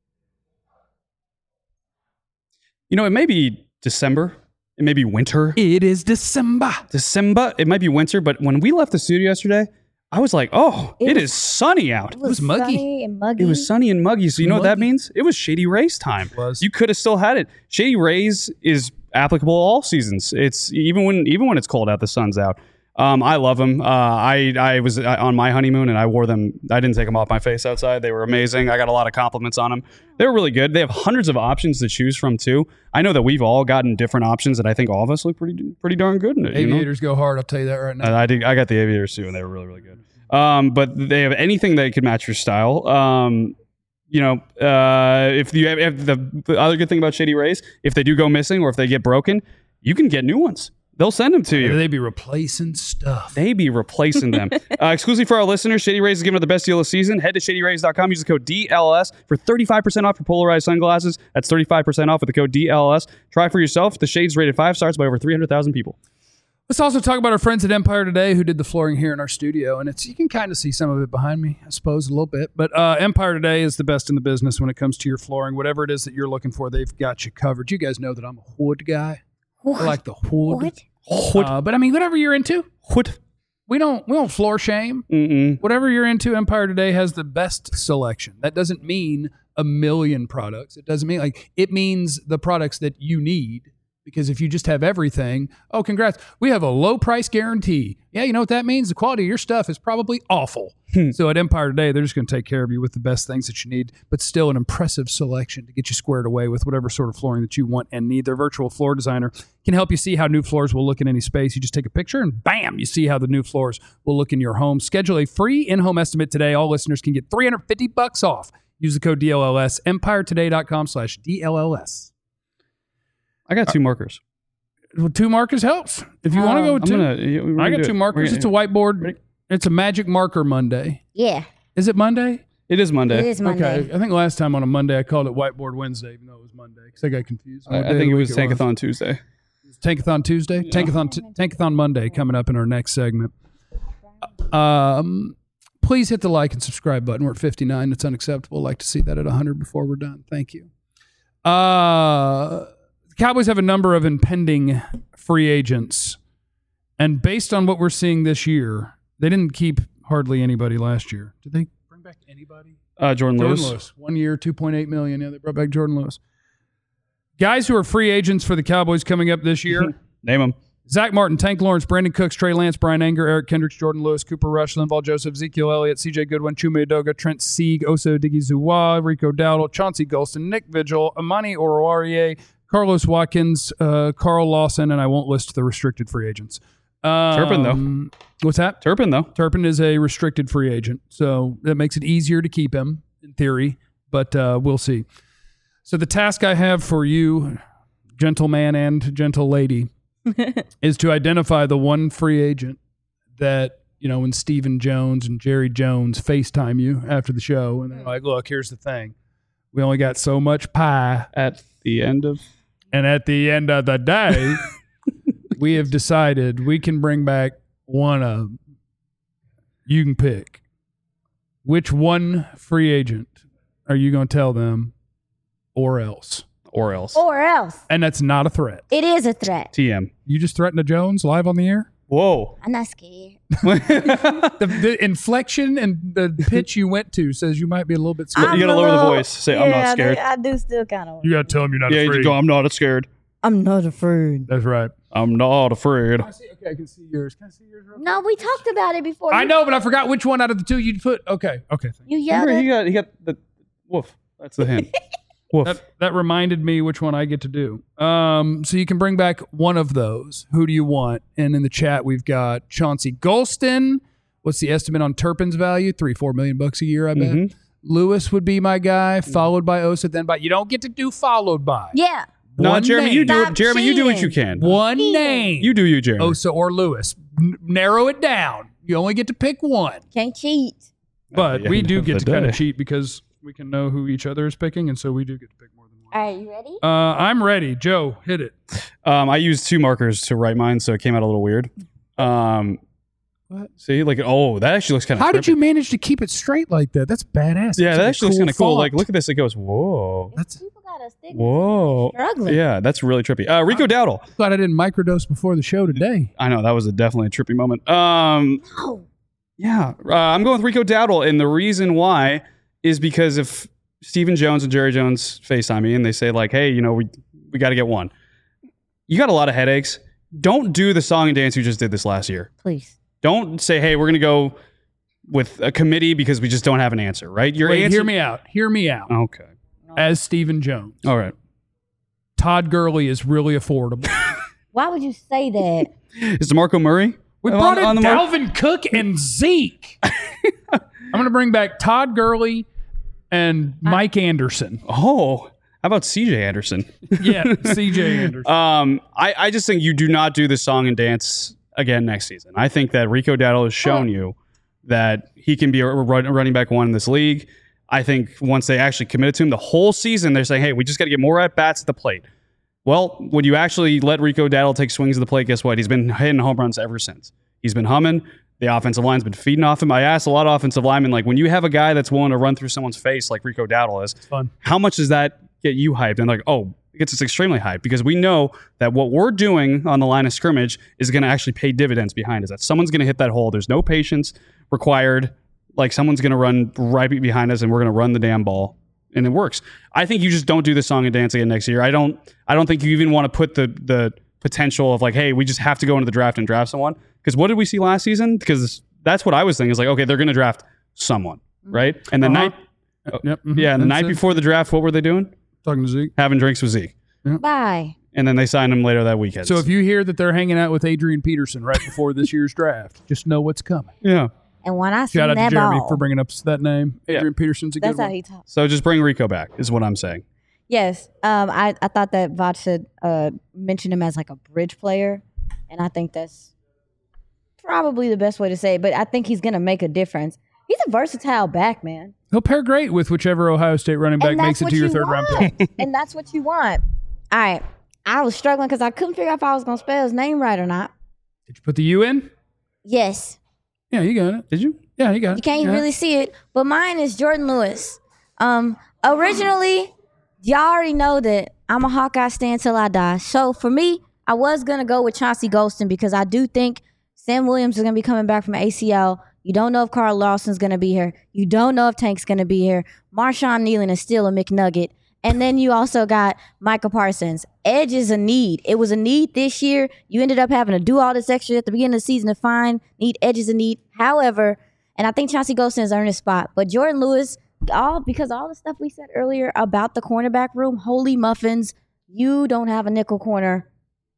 It may be December. It may be winter.
It is December.
It might be winter, but when we left the studio yesterday, I was like, it is sunny out.
It was
muggy.
Sunny and muggy.
It was sunny and muggy. So you know what that means? It was Shady Rays time.
It was.
You could have still had it. Shady Rays is applicable all seasons. It's even when it's cold out, the sun's out. I love them. I was on my honeymoon and I wore them. I didn't take them off my face outside. They were amazing. I got a lot of compliments on them. They were really good. They have hundreds of options to choose from too. I know that we've all gotten different options, and I think all of us look pretty darn good in it.
Aviators go hard. I'll tell you that right now.
I got the Aviators too, and they were really, really good. But they have anything that could match your style. If you have the other good thing about Shady Rays, if they do go missing or if they get broken, you can get new ones. They'll send them to you.
They be replacing stuff.
They be replacing them. Exclusively for our listeners, Shady Rays is giving out the best deal of the season. Head to shadyrays.com. Use the code DLS for 35% off your polarized sunglasses. That's 35% off with the code DLS. Try for yourself. The Shade's rated 5 stars by over 300,000 people.
Let's also talk about our friends at Empire Today who did the flooring here in our studio. And you can kind of see some of it behind me, I suppose, a little bit. But Empire Today is the best in the business when it comes to your flooring. Whatever it is that you're looking for, they've got you covered. You guys know that I'm a wood guy.
What?
I like the wood.
What?
But I mean, whatever you're into,
What?
we don't floor shame.
Mm-mm.
Whatever you're into, Empire Today has the best selection. That doesn't mean a million products. It doesn't mean it means the products that you need. Because if you just have everything, congrats. We have a low price guarantee. Yeah, you know what that means? The quality of your stuff is probably awful. So at Empire Today, they're just going to take care of you with the best things that you need, but still an impressive selection to get you squared away with whatever sort of flooring that you want and need. Their virtual floor designer can help you see how new floors will look in any space. You just take a picture and bam, you see how the new floors will look in your home. Schedule a free in-home estimate today. All listeners can get $350 off. Use the code DLLS, empiretoday.com/DLLS.
I got 2 markers.
Well, 2 markers helps. If you want to go with 2, I got 2 markers. It's a whiteboard. It's a Magic Marker Monday.
Yeah.
Is it Monday?
It is Monday.
It is Monday.
Okay. I think last time on a Monday I called it Whiteboard Wednesday, even though it was Monday, because I got confused.
I think it was Tankathon Tuesday.
Tankathon Tuesday? Yeah. Tankathon Monday coming up in our next segment. Please hit the like and subscribe button. We're at 59. It's unacceptable. I'd like to see that at 100 before we're done. Thank you. Cowboys have a number of impending free agents, and based on what we're seeing this year, they didn't keep hardly anybody last year. Did they bring back anybody?
Jordan Lewis.
1 year, $2.8 million. Yeah, they brought back Jordan Lewis. Guys who are free agents for the Cowboys coming up this year.
Name them.
Zach Martin, Tank Lawrence, Brandon Cooks, Trey Lance, Brian Anger, Eric Kendricks, Jordan Lewis, Cooper Rush, Linval Joseph, Ezekiel Elliott, CJ Goodwin, Chuma Edoga, Trent Sieg, Oso Digizuwa, Rico Dowdle, Chauncey Golston, Nick Vigil, Amani Oruwariye, Carlos Watkins, Carl Lawson, and I won't list the restricted free agents.
Turpin, though.
What's that?
Turpin, though.
Turpin is a restricted free agent, so that makes it easier to keep him, in theory, but we'll see. So the task I have for you, gentleman and gentle lady, is to identify the one free agent that, when Stephen Jones and Jerry Jones FaceTime you after the show and they're like, look, here's the thing. We only got so much pie.
At the end of
the day, we have decided we can bring back one of them. You can pick. Which one free agent are you going to tell them or else?
Or else.
Or else.
And that's not a threat.
It is a threat.
TM.
You just threatened a Jones live on the air?
Whoa.
I'm not scared.
The inflection and the pitch you went to says you might be a little bit scared.
You got to lower the voice. Say, I'm not scared.
I do still kind of.
You got to tell him you're not
Yeah,
afraid.
you go, I'm not scared.
I'm not afraid.
That's right.
I'm not afraid.
Okay, I can see yours. Can I see yours? Real
No, we talked about it before.
I know, but I forgot which one out of the two you'd put. Okay.
You yelled
Remember,
it.
he got the woof. That's the hint. Woof.
That reminded me which one I get to do. So you can bring back one of those. Who do you want? And in the chat, we've got Chauncey Golston. What's the estimate on Turpin's value? $3-4 million a year, I bet.
Mm-hmm.
Lewis would be my guy, followed by Osa, then by. You don't get to do followed by.
Yeah.
No,
One
Jeremy,
name.
you do it.
Stop
Jeremy, you do what
cheating.
you can.
One name.
You do you, Jeremy.
Osa or Lewis. Narrow it down. You only get to pick one.
Can't cheat.
But
the
we
end
do
of
get
the
to kind
day.
of cheat because we can know who each other is picking, and so we do get to pick more than one.
All right, you ready?
I'm ready. Joe, hit it.
I used 2 markers to write mine, so it came out a little weird.
What?
See, like, oh, that actually looks kind of.
How did you manage to keep it straight like that? That's badass.
Yeah,
That's
that
a
actually looks kind of cool.
font.
Like, look at this. It goes, whoa,
That's-
People got a stigma.
whoa.
Struggling.
Yeah, that's really trippy. Rico Dowdle.
Glad I didn't microdose before the show today.
I know that was definitely a trippy moment.
No.
Yeah, I'm going with Rico Dowdle, and the reason why is because if Stephen Jones and Jerry Jones FaceTime me and they say like, hey, we got to get one. You got a lot of headaches. Don't do the song and dance you just did this last year.
Please.
Don't say, hey, we're going to go with a committee because we just don't have an answer, right? Your
Wait,
answer.
hear me out. Hear me out.
Okay.
As Stephen Jones,
All right.
Todd Gurley is really affordable.
Why would you say that?
Is DeMarco Murray?
We
on-
brought
on
in
the mark?
Dalvin Cook and Zeke. I'm going to bring back Todd Gurley and Mike Anderson.
Oh, how about CJ Anderson?
Yeah, CJ Anderson.
I just think you do not do the song and dance again next season. I think that Rico Dowdle has shown you that he can be a running back one in this league. I think once they actually committed to him the whole season, they're saying, hey, we just got to get more at-bats at the plate. Well, when you actually let Rico Dowdle take swings at the plate, guess what? He's been hitting home runs ever since. He's been humming. The offensive line's been feeding off him. I asked a lot of offensive linemen, like, when you have a guy that's willing to run through someone's face like Rico Dowdle is,
Fun.
how much does that get you hyped? And like, oh, it gets us extremely hyped because we know that what we're doing on the line of scrimmage is going to actually pay dividends behind us. That someone's going to hit that hole. There's no patience required. Like someone's going to run right behind us and we're going to run the damn ball. And it works. I think you just don't do the song and dance again next year. I don't think you even want to put the potential of like, hey, we just have to go into the draft and draft someone. Because what did we see last season? Because that's what I was thinking. Is like, okay, they're going to draft someone, right? And the night,
Yep. mhm.
yeah, and the
That's
night
it.
before the draft, what were they doing?
Talking to Zeke.
Having drinks with Zeke.
Bye.
And then they signed him later that weekend.
So if you hear that they're hanging out with Adrian Peterson right before this year's draft, just know what's coming.
yeah.
And when I see
Shout out to
that
Jeremy
ball,
for bringing up that name.
Yeah.
Adrian Peterson's a
that's
good
how
one.
he talks.
So just bring Rico back is what I'm saying.
Yes. I thought that Vach should mention him as like a bridge player. And I think that's probably the best way to say it. But I think he's going to make a difference. He's a versatile back, man.
He'll pair great with whichever Ohio State running back
And
makes
that's
it to
what
your
you
third round
want.
pick.
And that's what you want. All right. I was struggling because I couldn't figure out if I was going to spell his name right or not.
Did you put the U in?
Yes.
Yeah, you got it.
Did you?
Yeah, you got it.
You can't
Yeah.
really see it, but mine is Jordan Lewis. Originally, y'all already know that I'm a Hawkeye stan till I die. So for me, I was gonna go with Chauncey Golston because I do think Sam Williams is gonna be coming back from ACL. You don't know if Carl Lawson's gonna be here. You don't know if Tank's gonna be here. Marshawn Nealon is still a McNugget. And then you also got Micah Parsons. Edge is a need. It was a need this year. You ended up having to do all this extra at the beginning of the season to find need. Edge is a need. However, and I think Chauncey Golston has earned his spot. But Jordan Lewis, because all the stuff we said earlier about the cornerback room, holy muffins, you don't have a nickel corner.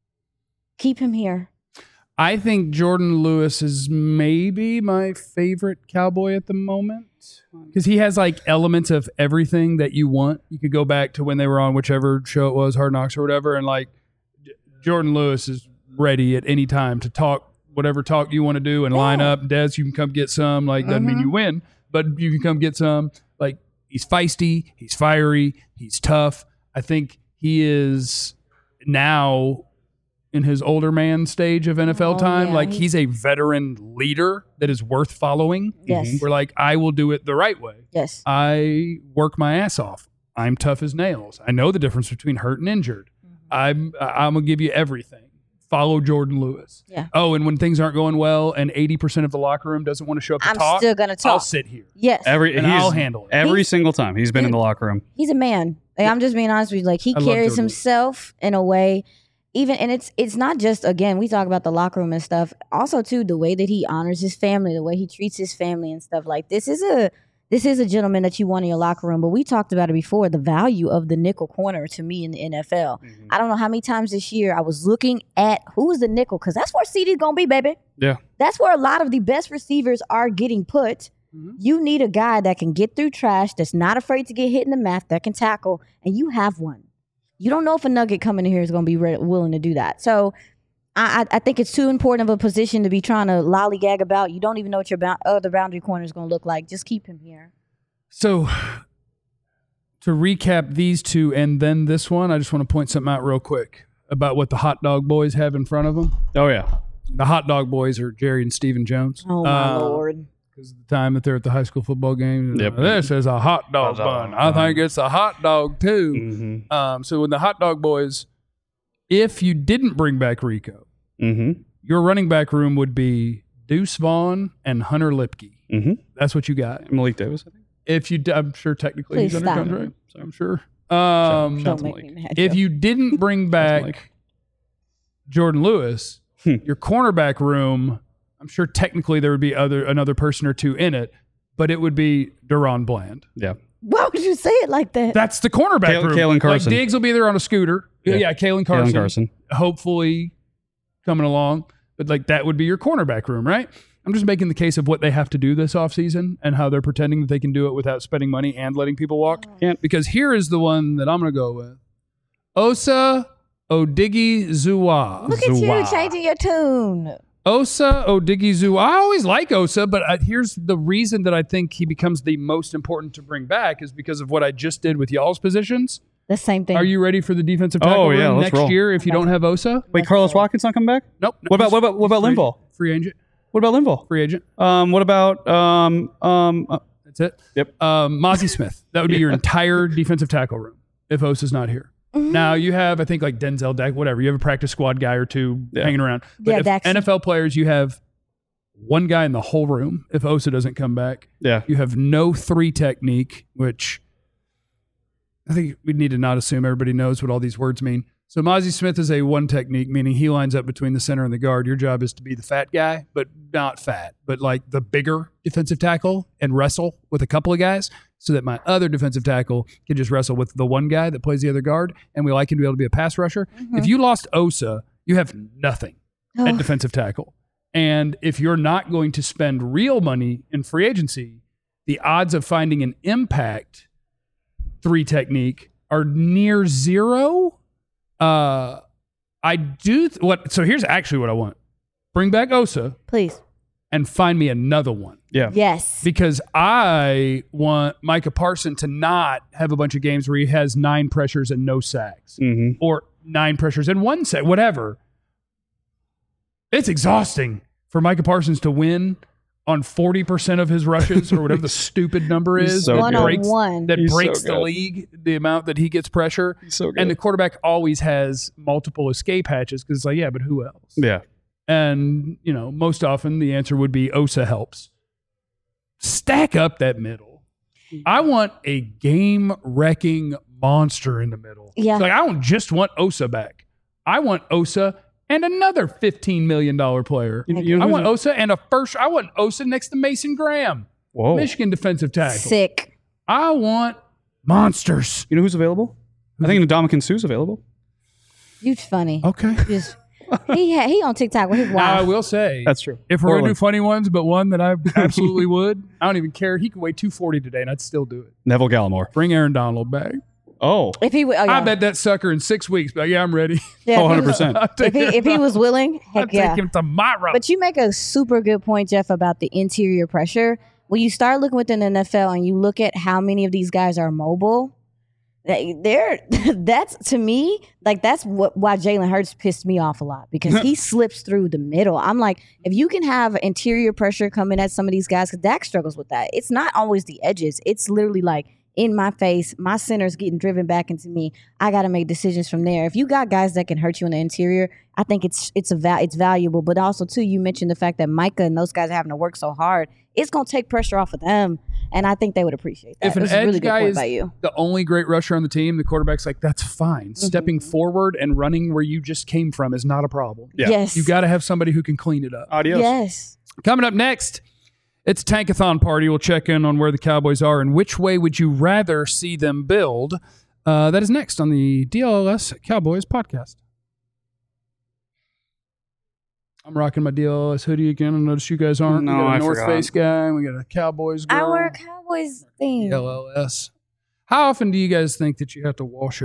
Keep him here.
I think Jordan Lewis is maybe my favorite Cowboy at the moment because he has like elements of everything that you want. You could go back to when they were on whichever show it was, Hard Knocks or whatever, and like Jordan Lewis is ready at any time to talk whatever talk you want to do and line up. Des, you can come get some. Like, doesn't mean you win, but you can come get some. Like, he's feisty, he's fiery, he's tough. I think he is now in his older man stage of NFL time.
Yeah,
like, he's a veteran leader that is worth following.
Yes.
We're like, I will do it the right way.
Yes.
I work my ass off. I'm tough as nails. I know the difference between hurt and injured. I'm gonna give you everything. Follow Jordan Lewis.
Yeah.
Oh, and when things aren't going well and 80% of the locker room doesn't want to show up to
I'm
talk,
still gonna talk.
I'll sit here.
Yes.
I'll handle it.
Every single time he's been in the locker room.
He's a man. Like, I'm just being honest with you. Like, he
I love
carries
Jordan.
himself in a way, even, and it's not just, again, we talk about the locker room and stuff. Also, too, the way that he honors his family, the way he treats his family and stuff. Like, this is a gentleman that you want in your locker room. But we talked about it before, the value of the nickel corner to me in the NFL. I don't know how many times this year I was looking at who is the nickel, because that's where CD's going to be, baby.
Yeah.
That's where a lot of the best receivers are getting put. You need a guy that can get through trash, that's not afraid to get hit in the math, that can tackle, and you have one. You don't know if a nugget coming in here is going to be willing to do that. So I think it's too important of a position to be trying to lollygag about. You don't even know what your other boundary corner is going to look like. Just keep him here.
So to recap these two and then this one, I just want to point something out real quick about what the hot dog boys have in front of them.
Oh, yeah.
The hot dog boys are Jerry and Stephen Jones.
Oh, my Lord.
Because of the time that they're at the high school football game.
Yep.
This is a hot dog bun. I think it's a hot dog, too. So when the hot dog boys, if you didn't bring back Rico, your running back room would be Deuce Vaughn and Hunter Lipke. That's what you got.
Malik Davis, I think.
If you, I'm sure technically
Please
he's under
stop.
contract. So I'm sure.
Don't make me mad.
If
Joe.
you didn't bring back Jordan Lewis, your cornerback room, I'm sure technically there would be another person or two in it, but it would be Deron Bland.
Yeah.
Why would you say it like that?
That's the cornerback room.
Kalen Carson.
Like, Diggs will be there on a scooter. Yeah, Kalen Carson.
Kalen Carson.
Hopefully coming along. But like, that would be your cornerback room, right? I'm just making the case of what they have to do this offseason and how they're pretending that they can do it without spending money and letting people walk. Because here is the one that I'm going to go with. Osa Odighizuwa.
Look at you changing your tune.
Osa Odighizuwa. I always like Osa, but here's the reason that I think he becomes the most important to bring back is because of what I just did with y'all's positions.
The same thing.
Are you ready for the defensive tackle room
let's
next
roll.
year if you don't have Osa?
Wait, Carlos Watkins not coming back?
Nope.
What about Linval?
Free agent.
What about Linval?
Free agent.
What about
That's it.
Yep.
Mozzie Smith. That would be your entire defensive tackle room if Osa's not here. Now you have, I think, like Denzel Dak, whatever. You have a practice squad guy or two hanging around. But if
Daxton.
NFL players, you have one guy in the whole room. If Osa doesn't come back, you have no 3 technique, which I think we need to not assume everybody knows what all these words mean. So Mozzie Smith is a 1 technique, meaning he lines up between the center and the guard. Your job is to be the fat guy, but not fat, but like the bigger defensive tackle and wrestle with a couple of guys so that my other defensive tackle can just wrestle with the one guy that plays the other guard, and we like him to be able to be a pass rusher. If you lost Osa, you have nothing at defensive tackle. And if you're not going to spend real money in free agency, the odds of finding an impact 3 technique are near zero. I do so here's actually what I want. Bring back Osa,
Please.
and find me another one.
Yeah.
Yes.
Because I want Micah Parsons to not have a bunch of games where he has 9 pressures and no sacks. Or 9 pressures and 1 sack, whatever. It's exhausting for Micah Parsons to win on 40% of his rushes or whatever the stupid number is.
so
One
good.
on
breaks,
one.
that
He's so
breaks the
good.
league, the amount that he gets pressure.
He's so good.
And the quarterback always has multiple escape hatches because it's like, yeah, but who else?
Yeah.
And, you know, most often the answer would be Osa helps. Stack up that middle. I want a game-wrecking monster in the middle.
Yeah.
Like, I don't just want Osa back. I want Osa and another $15 million player. I want Osa and I want Osa next to Mason Graham.
Whoa.
Michigan defensive tackle.
Sick.
I want monsters.
You know who's available? I think Ndamukong Suh's available.
You funny.
Okay.
Just, he on TikTok with his
Now, I
wife.
will say,
That's true.
if we're going to do
Portland.
funny ones, but one that I absolutely would, I don't even care. He could weigh 240 today, and I'd still do it.
Neville Gallimore.
Bring Aaron Donald back.
Oh,
If he, yeah.
I bet that sucker in 6 weeks. But yeah, I'm ready.
Yeah,
oh,
if he was-
100%.
If he was willing,
I'll
heck yeah.
take him tomorrow.
But you make a super good point, Jeff, about the interior pressure. When you start looking within the NFL and you look at how many of these guys are mobile, that's to me, like that's why Jalen Hurts pissed me off a lot because he slips through the middle. I'm like, if you can have interior pressure coming at some of these guys, because Dak struggles with that. It's not always the edges. It's literally like in my face, my center's getting driven back into me. I got to make decisions from there. If you got guys that can hurt you in the interior, I think it's valuable. But also too, you mentioned the fact that Micah and those guys are having to work so hard. It's going to take pressure off of them. And I think they would appreciate that.
if an
It was a
edge
really good
guy
point
is
by you.
the only great rusher on the team, the quarterback's like, that's fine. Stepping forward and running where you just came from is not a problem.
Yeah.
Yes.
You got to have somebody who can clean it up.
Adios.
Yes.
Coming up next, it's a Tankathon party. We'll check in on where the Cowboys are and which way would you rather see them build. That is next on the DLS Cowboys podcast. I'm rocking my DLS hoodie again. I notice you guys aren't.
No,
we got a
I
North
forgot.
Face guy. We got a Cowboys girl.
I wear a Cowboys theme.
LLS. How often do you guys think that you have to wash a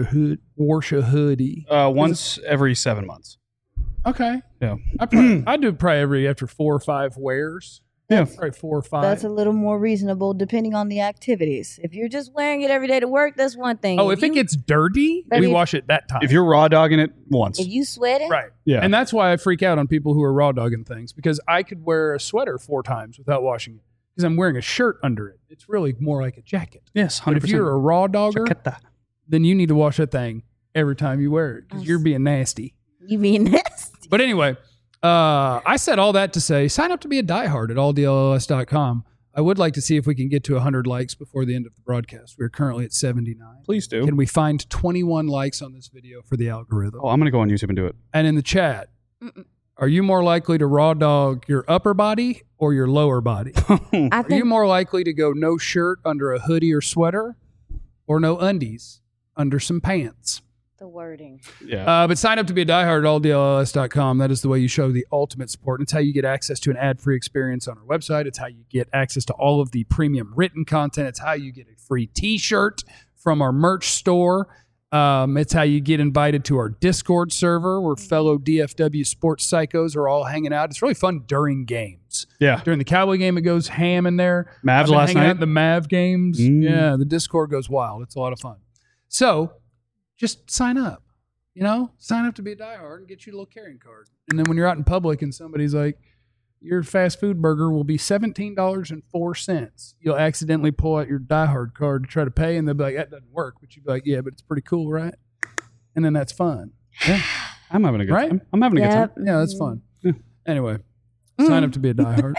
hoodie?
Once every 7 months.
Okay.
Yeah.
I do probably after 4 or 5 wears.
Yeah.
Probably 4 or 5.
That's a little more reasonable depending on the activities. If you're just wearing it every day to work, that's one thing.
if it gets dirty,
But
we
if-
wash it that time.
If you're raw dogging it once.
if you sweat it,
right.
Yeah.
And that's why I freak out on people who are raw dogging things because I could wear a sweater 4 times without washing it because I'm wearing a shirt under it. It's really more like a jacket.
Yes, 100%.
But if you're a raw dogger,
Chaqueta.
then you need to wash that thing every time you wear it because you're being nasty.
you being nasty.
But anyway, I said all that to say, sign up to be a diehard at alldlls.com. I would like to see if we can get to 100 likes before the end of the broadcast. We're currently at 79.
Please do.
Can we find 21 likes on this video for the algorithm?
Oh, I'm going to go on YouTube and do it.
And in the chat, are you more likely to raw dog your upper body or your lower body?
I
Are you
think
more likely to go no shirt under a hoodie or sweater or no undies under some pants?
the wording.
Yeah.
But sign up to be a diehard at alldlls.com. That is the way you show the ultimate support. It's how you get access to an ad-free experience on our website. It's how you get access to all of the premium written content. It's how you get a free t-shirt from our merch store. It's how you get invited to our Discord server where fellow DFW sports psychos are all hanging out. It's really fun during games.
Yeah.
During the Cowboy game, it goes ham in there.
Mavs
I've been
last
hanging
night.
out in the Mav games.
Mm.
Yeah, the Discord goes wild. It's a lot of fun. So just sign up. You know, sign up to be a diehard and get you a little carrying card. And then when you're out in public and somebody's like, your fast food burger will be $17.04. You'll accidentally pull out your diehard card to try to pay, and they'll be like, that doesn't work. But you'll be like, yeah, but it's pretty cool, right? And then that's fun.
Yeah. I'm having a good
Right?
time. I'm having a good time.
Yeah, that's fun.
Yeah.
Anyway, sign up to be a diehard.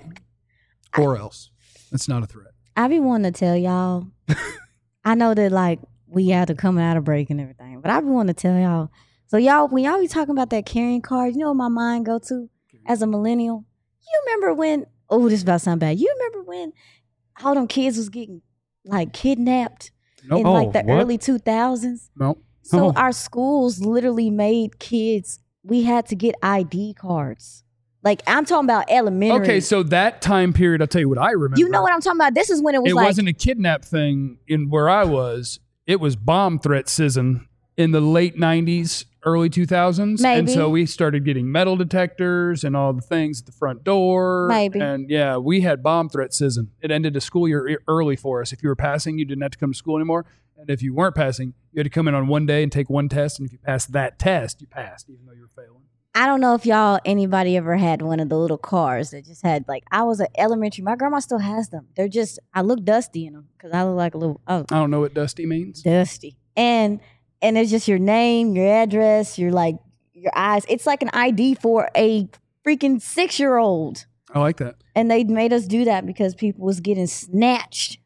Or else. That's not a threat.
I be wanting to tell y'all. I know that like we had to come out of break and everything, but I be wanting to tell y'all. So y'all, when y'all be talking about that carrying card, you know what my mind go to as a millennial? You remember when? Oh, this is about to sound bad. You remember when all them kids was getting like kidnapped
Nope.
in like the
what?
early 2000s?
Nope.
So
Oh.
our schools literally made kids. We had to get ID cards. Like I'm talking about elementary.
Okay, so that time period, I'll tell you what I remember.
you know what I'm talking about. This is when it was
It
like
wasn't a kidnap thing in where I was. It was bomb threat season in the late 90s, early 2000s. And
Maybe.
so we started getting metal detectors and all the things at the front door.
Maybe.
And yeah, we had bomb threat season. It ended the school year early for us. If you were passing, you didn't have to come to school anymore. And if you weren't passing, you had to come in on one day and take one test. And if you passed that test, you passed, even though you were failing.
I don't know if anybody ever had one of the little cars that just had like, I was at elementary. My grandma still has them. They're just, I look dusty in them because I look like a little,
I don't know what dusty means.
dusty. And it's just your name, your address, your eyes. It's like an ID for a freaking 6-year-old.
I like that.
And they made us do that because people was getting snatched.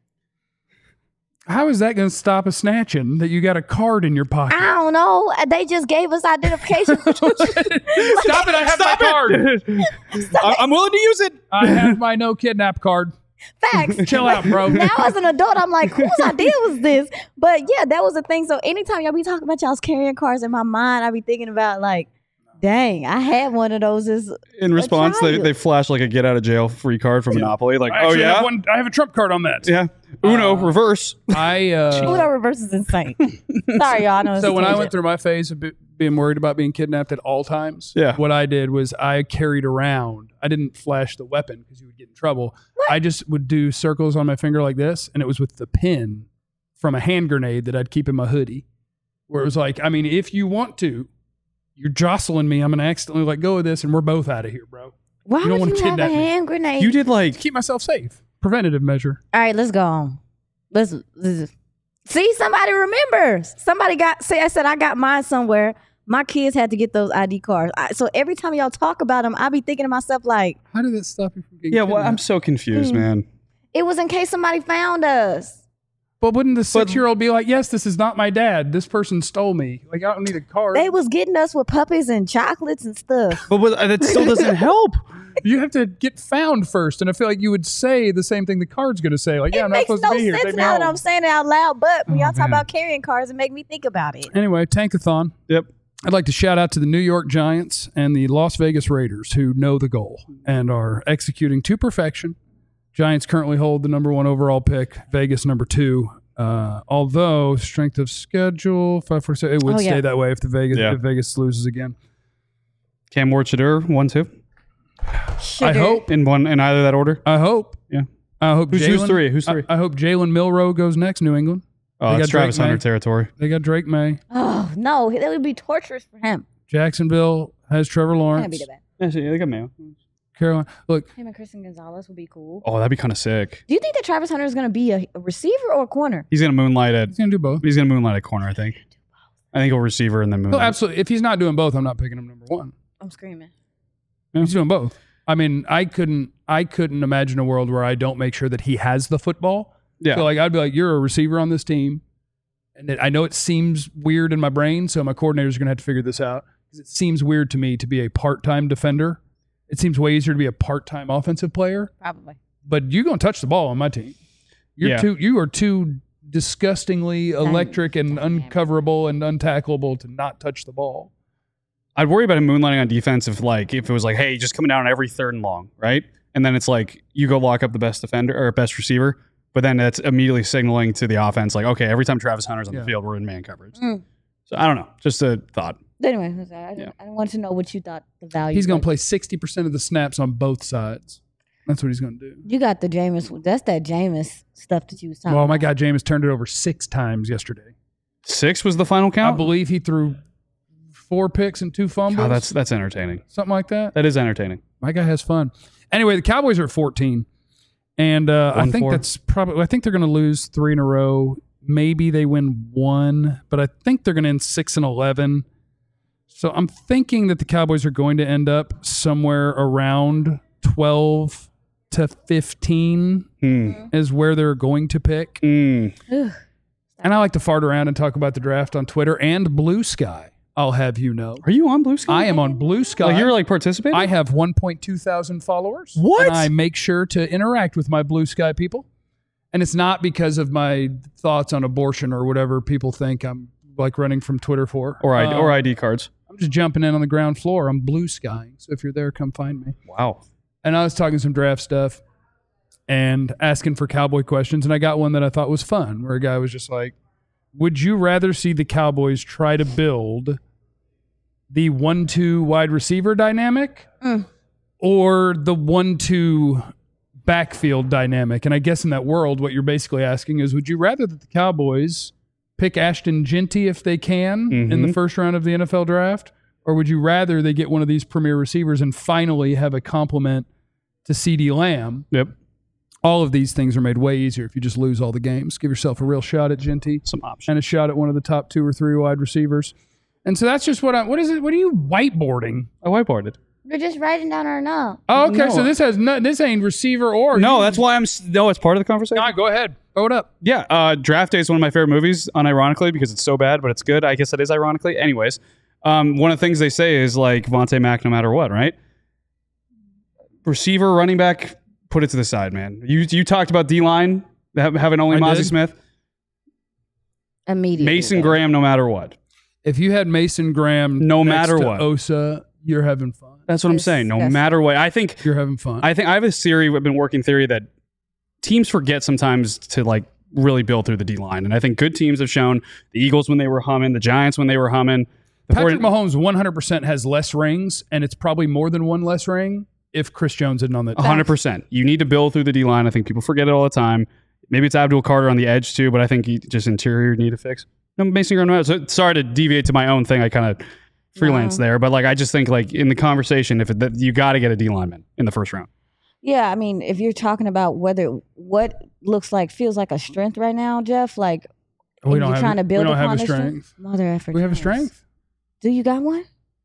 How is that going to stop a snatching that you got a card in your pocket?
I don't know. They just gave us identification.
Stop it. I have my card.
I'm willing to use it.
I have my no kidnap card.
Facts.
Chill out, bro.
Now as an adult, I'm like, whose idea was this? But yeah, that was the thing. So anytime y'all be talking about y'all's carrying cars in my mind, I be thinking about like Dang, I had one of those as
In response,
child.
they flash like a get out of jail free card from Monopoly. Like,
I
oh
actually
yeah,
I have a trump card on that.
yeah. Uno reverse.
Uno reverse is insane. Sorry, y'all. I know it's
So
a
when I
tangent.
went through my phase of being worried about being kidnapped at all times,
Yeah.
what I did was I carried around. I didn't flash the weapon because you would get in trouble. I just would do circles on my finger like this, and it was with the pin from a hand grenade that I'd keep in my hoodie, where it was like, I mean, if you want to, you're jostling me. I'm gonna accidentally let go of this, and we're both out of here, bro.
Why
you don't
would
wanna
you have a
kidnap me.
hand grenade?
You did like
Keep myself safe. Preventative measure.
All right, let's go on. Let's see. Somebody remembers. Somebody got. See, I said I got mine somewhere. My kids had to get those ID cards. So every time y'all talk about them, I be thinking to myself like,
How did that stop you from getting
yeah. Well, I'm
kidnapped?
so confused, man.
it was in case somebody found us.
But wouldn't the 6-year-old be like, yes, this is not my dad. This person stole me. Like, I don't need a card.
They was getting us with puppies and chocolates and stuff.
But that still doesn't help.
You have to get found first. And I feel like you would say the same thing the card's going to say. Like, yeah,
It
I'm not
makes
supposed
no
to be here.
sense
Take me
now that
home.
I'm saying it out loud. But when y'all talk
man.
about carrying cards, it make me think about it.
Anyway, Tankathon.
Yep.
I'd like to shout out to the New York Giants and the Las Vegas Raiders who know the goal and are executing to perfection. Giants currently hold the number 1 overall pick, Vegas number 2. Although strength of schedule, 547, it would
Oh, yeah.
stay that way if
Yeah.
if Vegas loses again.
Cam Ward-Shadur 1-2
I hope.
in either that order.
I hope.
Yeah.
I hope.
Who's
Jalen-
three? Who's three?
I hope Jalen Milroe goes next. New England.
Oh,
They
it's
got
Travis
Drake
Hunter
May.
territory.
They got Drake May.
Oh no, that would be torturous for him.
Jacksonville has Trevor
Can't be
Lawrence.
that bad.
Yeah, they got Mayo.
Carolina. Look,
Him and Christian Gonzalez would be cool.
Oh, that'd be kind of sick.
Do you think that Travis Hunter is going to be a receiver or a corner?
He's gonna moonlight at
he's gonna do both.
corner. I think he'll receiver and then moonlight.
No, absolutely. If he's not doing both, I'm not picking him number 1.
I'm screaming.
He's doing both. I mean, I couldn't imagine a world where I don't make sure that he has the football.
Yeah.
So like, I'd be like, you're a receiver on this team, and I know it seems weird in my brain, so my coordinator's gonna have to figure this out because it seems weird to me to be a part-time defender. It seems way easier to be a part-time offensive player.
Probably.
But you're gonna touch the ball on my team. You are too disgustingly electric and uncoverable and untackleable to not touch the ball.
I'd worry about him moonlighting on defense if it was like, hey, just coming down on every 3rd and long, right? And then it's like you go lock up the best defender or best receiver, but then that's immediately signaling to the offense like, okay, every time Travis Hunter's on the field, we're in man coverage.
Mm.
So I don't know, just a thought.
Anyway, I want to know what you thought the value.
He's gonna
was.
play 60% of the snaps on both sides. That's what he's gonna do.
You got the Jameis. That's that Jameis stuff that you was talking
Well,
about.
my guy Jameis turned it over 6 times yesterday.
6 was the final count.
I believe he threw 4 picks and 2 fumbles.
Oh, that's entertaining.
something like that.
That is entertaining.
My guy has fun. Anyway, the Cowboys are at 14, and I think
1-4.
that's probably. I think they're going to lose 3 in a row. Maybe they win 1, but I think they're going to end 6-11. So I'm thinking that the Cowboys are going to end up somewhere around 12 to 15 is where they're going to pick.
Ugh.
And I like to fart around and talk about the draft on Twitter and Blue Sky. I'll have you know.
Are you on Blue Sky?
I am on Blue Sky.
Like you're like participating?
I have 1.2 thousand followers.
What?
And I make sure to interact with my Blue Sky people. And it's not because of my thoughts on abortion or whatever people think I'm like running from Twitter for.
or ID cards.
I'm just jumping in on the ground floor. I'm Blue Skying. So if you're there, come find me.
Wow.
And I was talking some draft stuff and asking for Cowboy questions. And I got one that I thought was fun, where a guy was just like, would you rather see the Cowboys try to build the 1-2 wide receiver dynamic or the 1-2 backfield dynamic? And I guess in that world, what you're basically asking is, would you rather that the Cowboys pick Ashton Genty if they can in the first round of the NFL draft? Or would you rather they get one of these premier receivers and finally have a complement to CeeDee Lamb?
Yep.
All of these things are made way easier if you just lose all the games. Give yourself a real shot at Genty.
Some options.
And a shot at one of the top 2 or 3 wide receivers. And so that's just what are you whiteboarding?
I whiteboarded.
We're just writing down our note.
Oh, okay.
No.
So this ain't receiver or.
No, that's why no, it's part of the conversation.
No, go ahead. Throw it up.
Yeah, Draft Day is one of my favorite movies, unironically, because it's so bad, but it's good. I guess it is ironically. Anyways, one of the things they say is like Vontae Mack no matter what, right? Receiver, running back, put it to the side, man. You talked about D-line, having only
I
Mozzie
did.
Smith.
Immediately.
Mason Graham no matter what.
If you had Mason Graham
No
next
matter
to
what.
Osa you're having fun.
That's what I'm saying. No matter what, I think
You're having fun.
I have a theory. I've been working theory that teams forget sometimes to like really build through the D line, and I think good teams have shown the Eagles when they were humming, the Giants when they were humming.
Patrick Mahomes 100% has less rings, and it's probably more than one less ring if Chris Jones isn't on the
100%. You need to build through the D line. I think people forget it all the time. Maybe it's Abdul Carter on the edge too, but I think just interior need to fix. No, Mason Graham. So sorry to deviate to my own thing. I kind of freelance there, but like I just think like in the conversation, you got to get a D lineman in the first round.
Yeah, I mean, if you're talking about what feels like a strength right now, Jeff, like
we don't
you're
have,
trying to build
we don't have
upon
a strength.
Mother effort.
We have a strength.
Do you got one?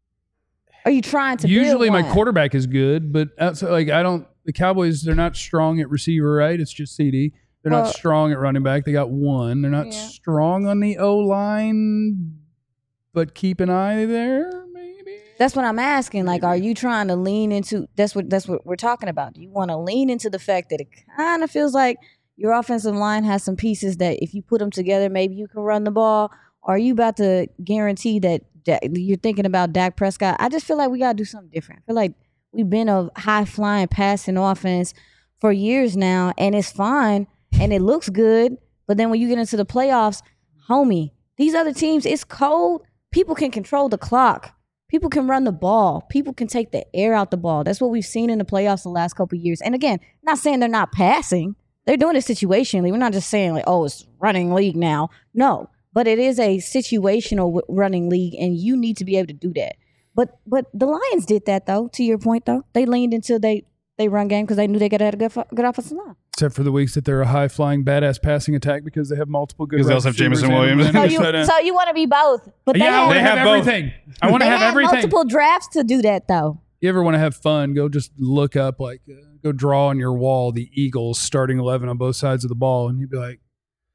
Are you trying to?
Usually,
build
my
one?
quarterback is good, but outside, like I don't. The Cowboys, they're not strong at receiver, right? It's just CD. They're not strong at running back. They got one. They're not strong on the O line, but keep an eye there. Maybe
that's what I'm asking. Like, are you trying to lean into? That's what we're talking about. Do you want to lean into the fact that it kind of feels like your offensive line has some pieces that if you put them together, maybe you can run the ball? Or are you about to guarantee that you're thinking about Dak Prescott? I just feel like we got to do something different. I feel like we've been a high-flying passing offense for years now, and it's fine, and it looks good. But then when you get into the playoffs, homie, these other teams, it's cold. People can control the clock. People can run the ball. People can take the air out the ball. That's what we've seen in the playoffs the last couple of years. And again, not saying they're not passing. They're doing it situationally. We're not just saying like, oh, it's running league now. No. But it is a situational running league, and you need to be able to do that. But the Lions did that, though, to your point, though. They leaned into they run game because they knew they could have a good offensive line.
Except for the weeks that they're a high-flying, badass passing attack because they have multiple good.
Because they also have Jameson Williams.
So you want to be both. But
I want to have everything. I want to have everything.
Multiple drafts to do that, though.
You ever want to have fun, go just look up, go draw on your wall the Eagles starting 11 on both sides of the ball, and you'd be like,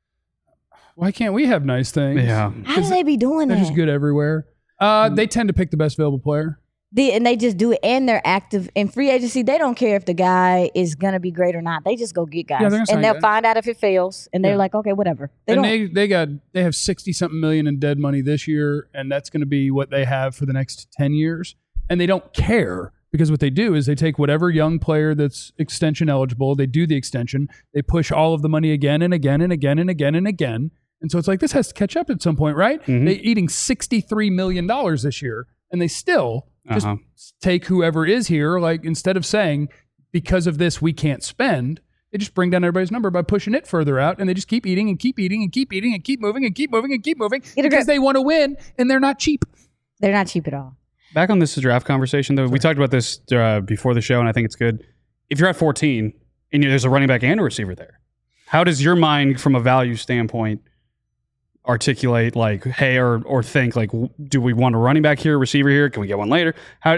why can't we have nice things?
Yeah.
How do they be doing that?
They're just good everywhere. They tend to pick the best available player.
And they just do it, and they're active in free agency. They don't care if the guy is going to be great or not. They just go get guys.
Yeah,
and they'll find out if it fails, and they're like, okay, whatever.
They have $60-something million in dead money this year, and that's going to be what they have for the next 10 years. And they don't care because what they do is they take whatever young player that's extension eligible, they do the extension, they push all of the money again and again and again and again and again. And so it's like, this has to catch up at some point, right?
Mm-hmm.
They're eating $63 million this year, and they still just take whoever is here. Like, instead of saying, because of this, we can't spend, they just bring down everybody's number by pushing it further out, and they just keep eating and keep eating and keep eating and keep moving and keep moving and keep moving because they want to win, and they're not cheap.
They're not cheap at all.
Back on this draft conversation, though, we talked about this before the show, and I think it's good. If you're at 14 and there's a running back and a receiver there, how does your mind, from a value standpoint, articulate like, hey, or think like, do we want a running back here, a receiver here? Can we get one later?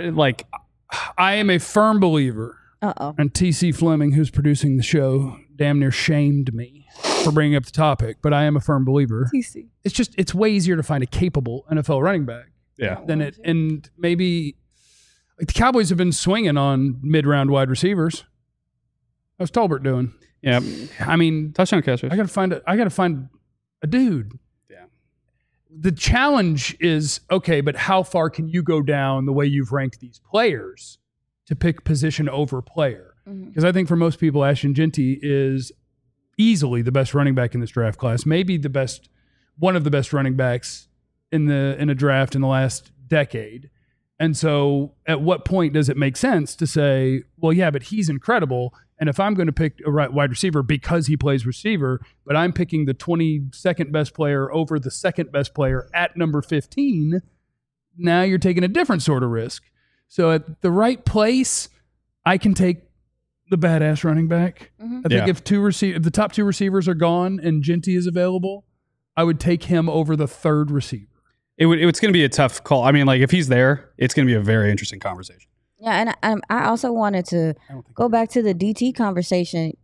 I am a firm believer. And TC Fleming, who's producing the show, damn near shamed me for bringing up the topic, but I am a firm believer.
TC.
It's way easier to find a capable NFL running back.
Yeah.
And maybe like the Cowboys have been swinging on mid-round wide receivers. How's Tolbert doing?
Yeah.
I mean,
touchdown catchers.
I gotta find a dude.
Yeah.
The challenge is, okay, but how far can you go down the way you've ranked these players to pick position over player? Because I think for most people, Ashton Jeanty is easily the best running back in this draft class, maybe one of the best running backs in a draft in the last decade. And so at what point does it make sense to say, well, yeah, but he's incredible, and if I'm going to pick a wide receiver because he plays receiver, but I'm picking the 22nd best player over the second best player at number 15, now you're taking a different sort of risk. So at the right place, I can take the badass running back. I think if the top two receivers are gone and Jeanty is available, I would take him over the third receiver.
It's going to be a tough call. I mean, like, if he's there, it's going to be a very interesting conversation.
Yeah, and I also wanted to go back to the DT conversation.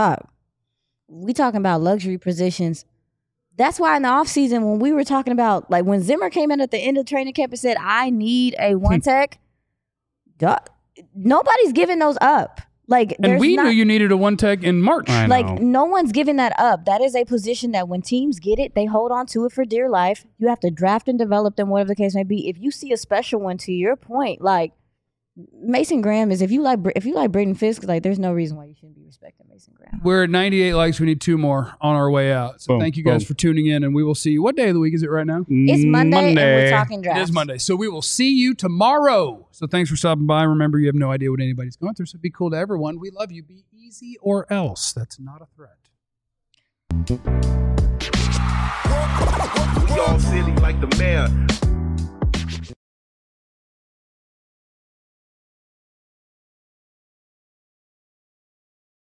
We talking about luxury positions. That's why in the offseason, when we were talking about, like, when Zimmer came in at the end of training camp and said, I need a one tech, nobody's giving those up. Like,
And we knew you needed a one tech in March.
I know.
Like, no one's giving that up. That is a position that when teams get it, they hold on to it for dear life. You have to draft and develop them, whatever the case may be. If you see a special one, to your point, like Mason Graham is, if you like Braden Fisk, like there's no reason why you shouldn't be respecting Mason Graham.
We're at 98 likes. We need 2 more on our way out. So
Boom,
thank you guys
boom.
for tuning in, and we will see you. What day of the week is it right now?
It's Monday, and we're talking
It
draft.
is Monday. So we will see you tomorrow. So thanks for stopping by. Remember, you have no idea what anybody's going through, so be cool to everyone. We love you. Be easy or else. That's not a threat.
We all silly like the mayor.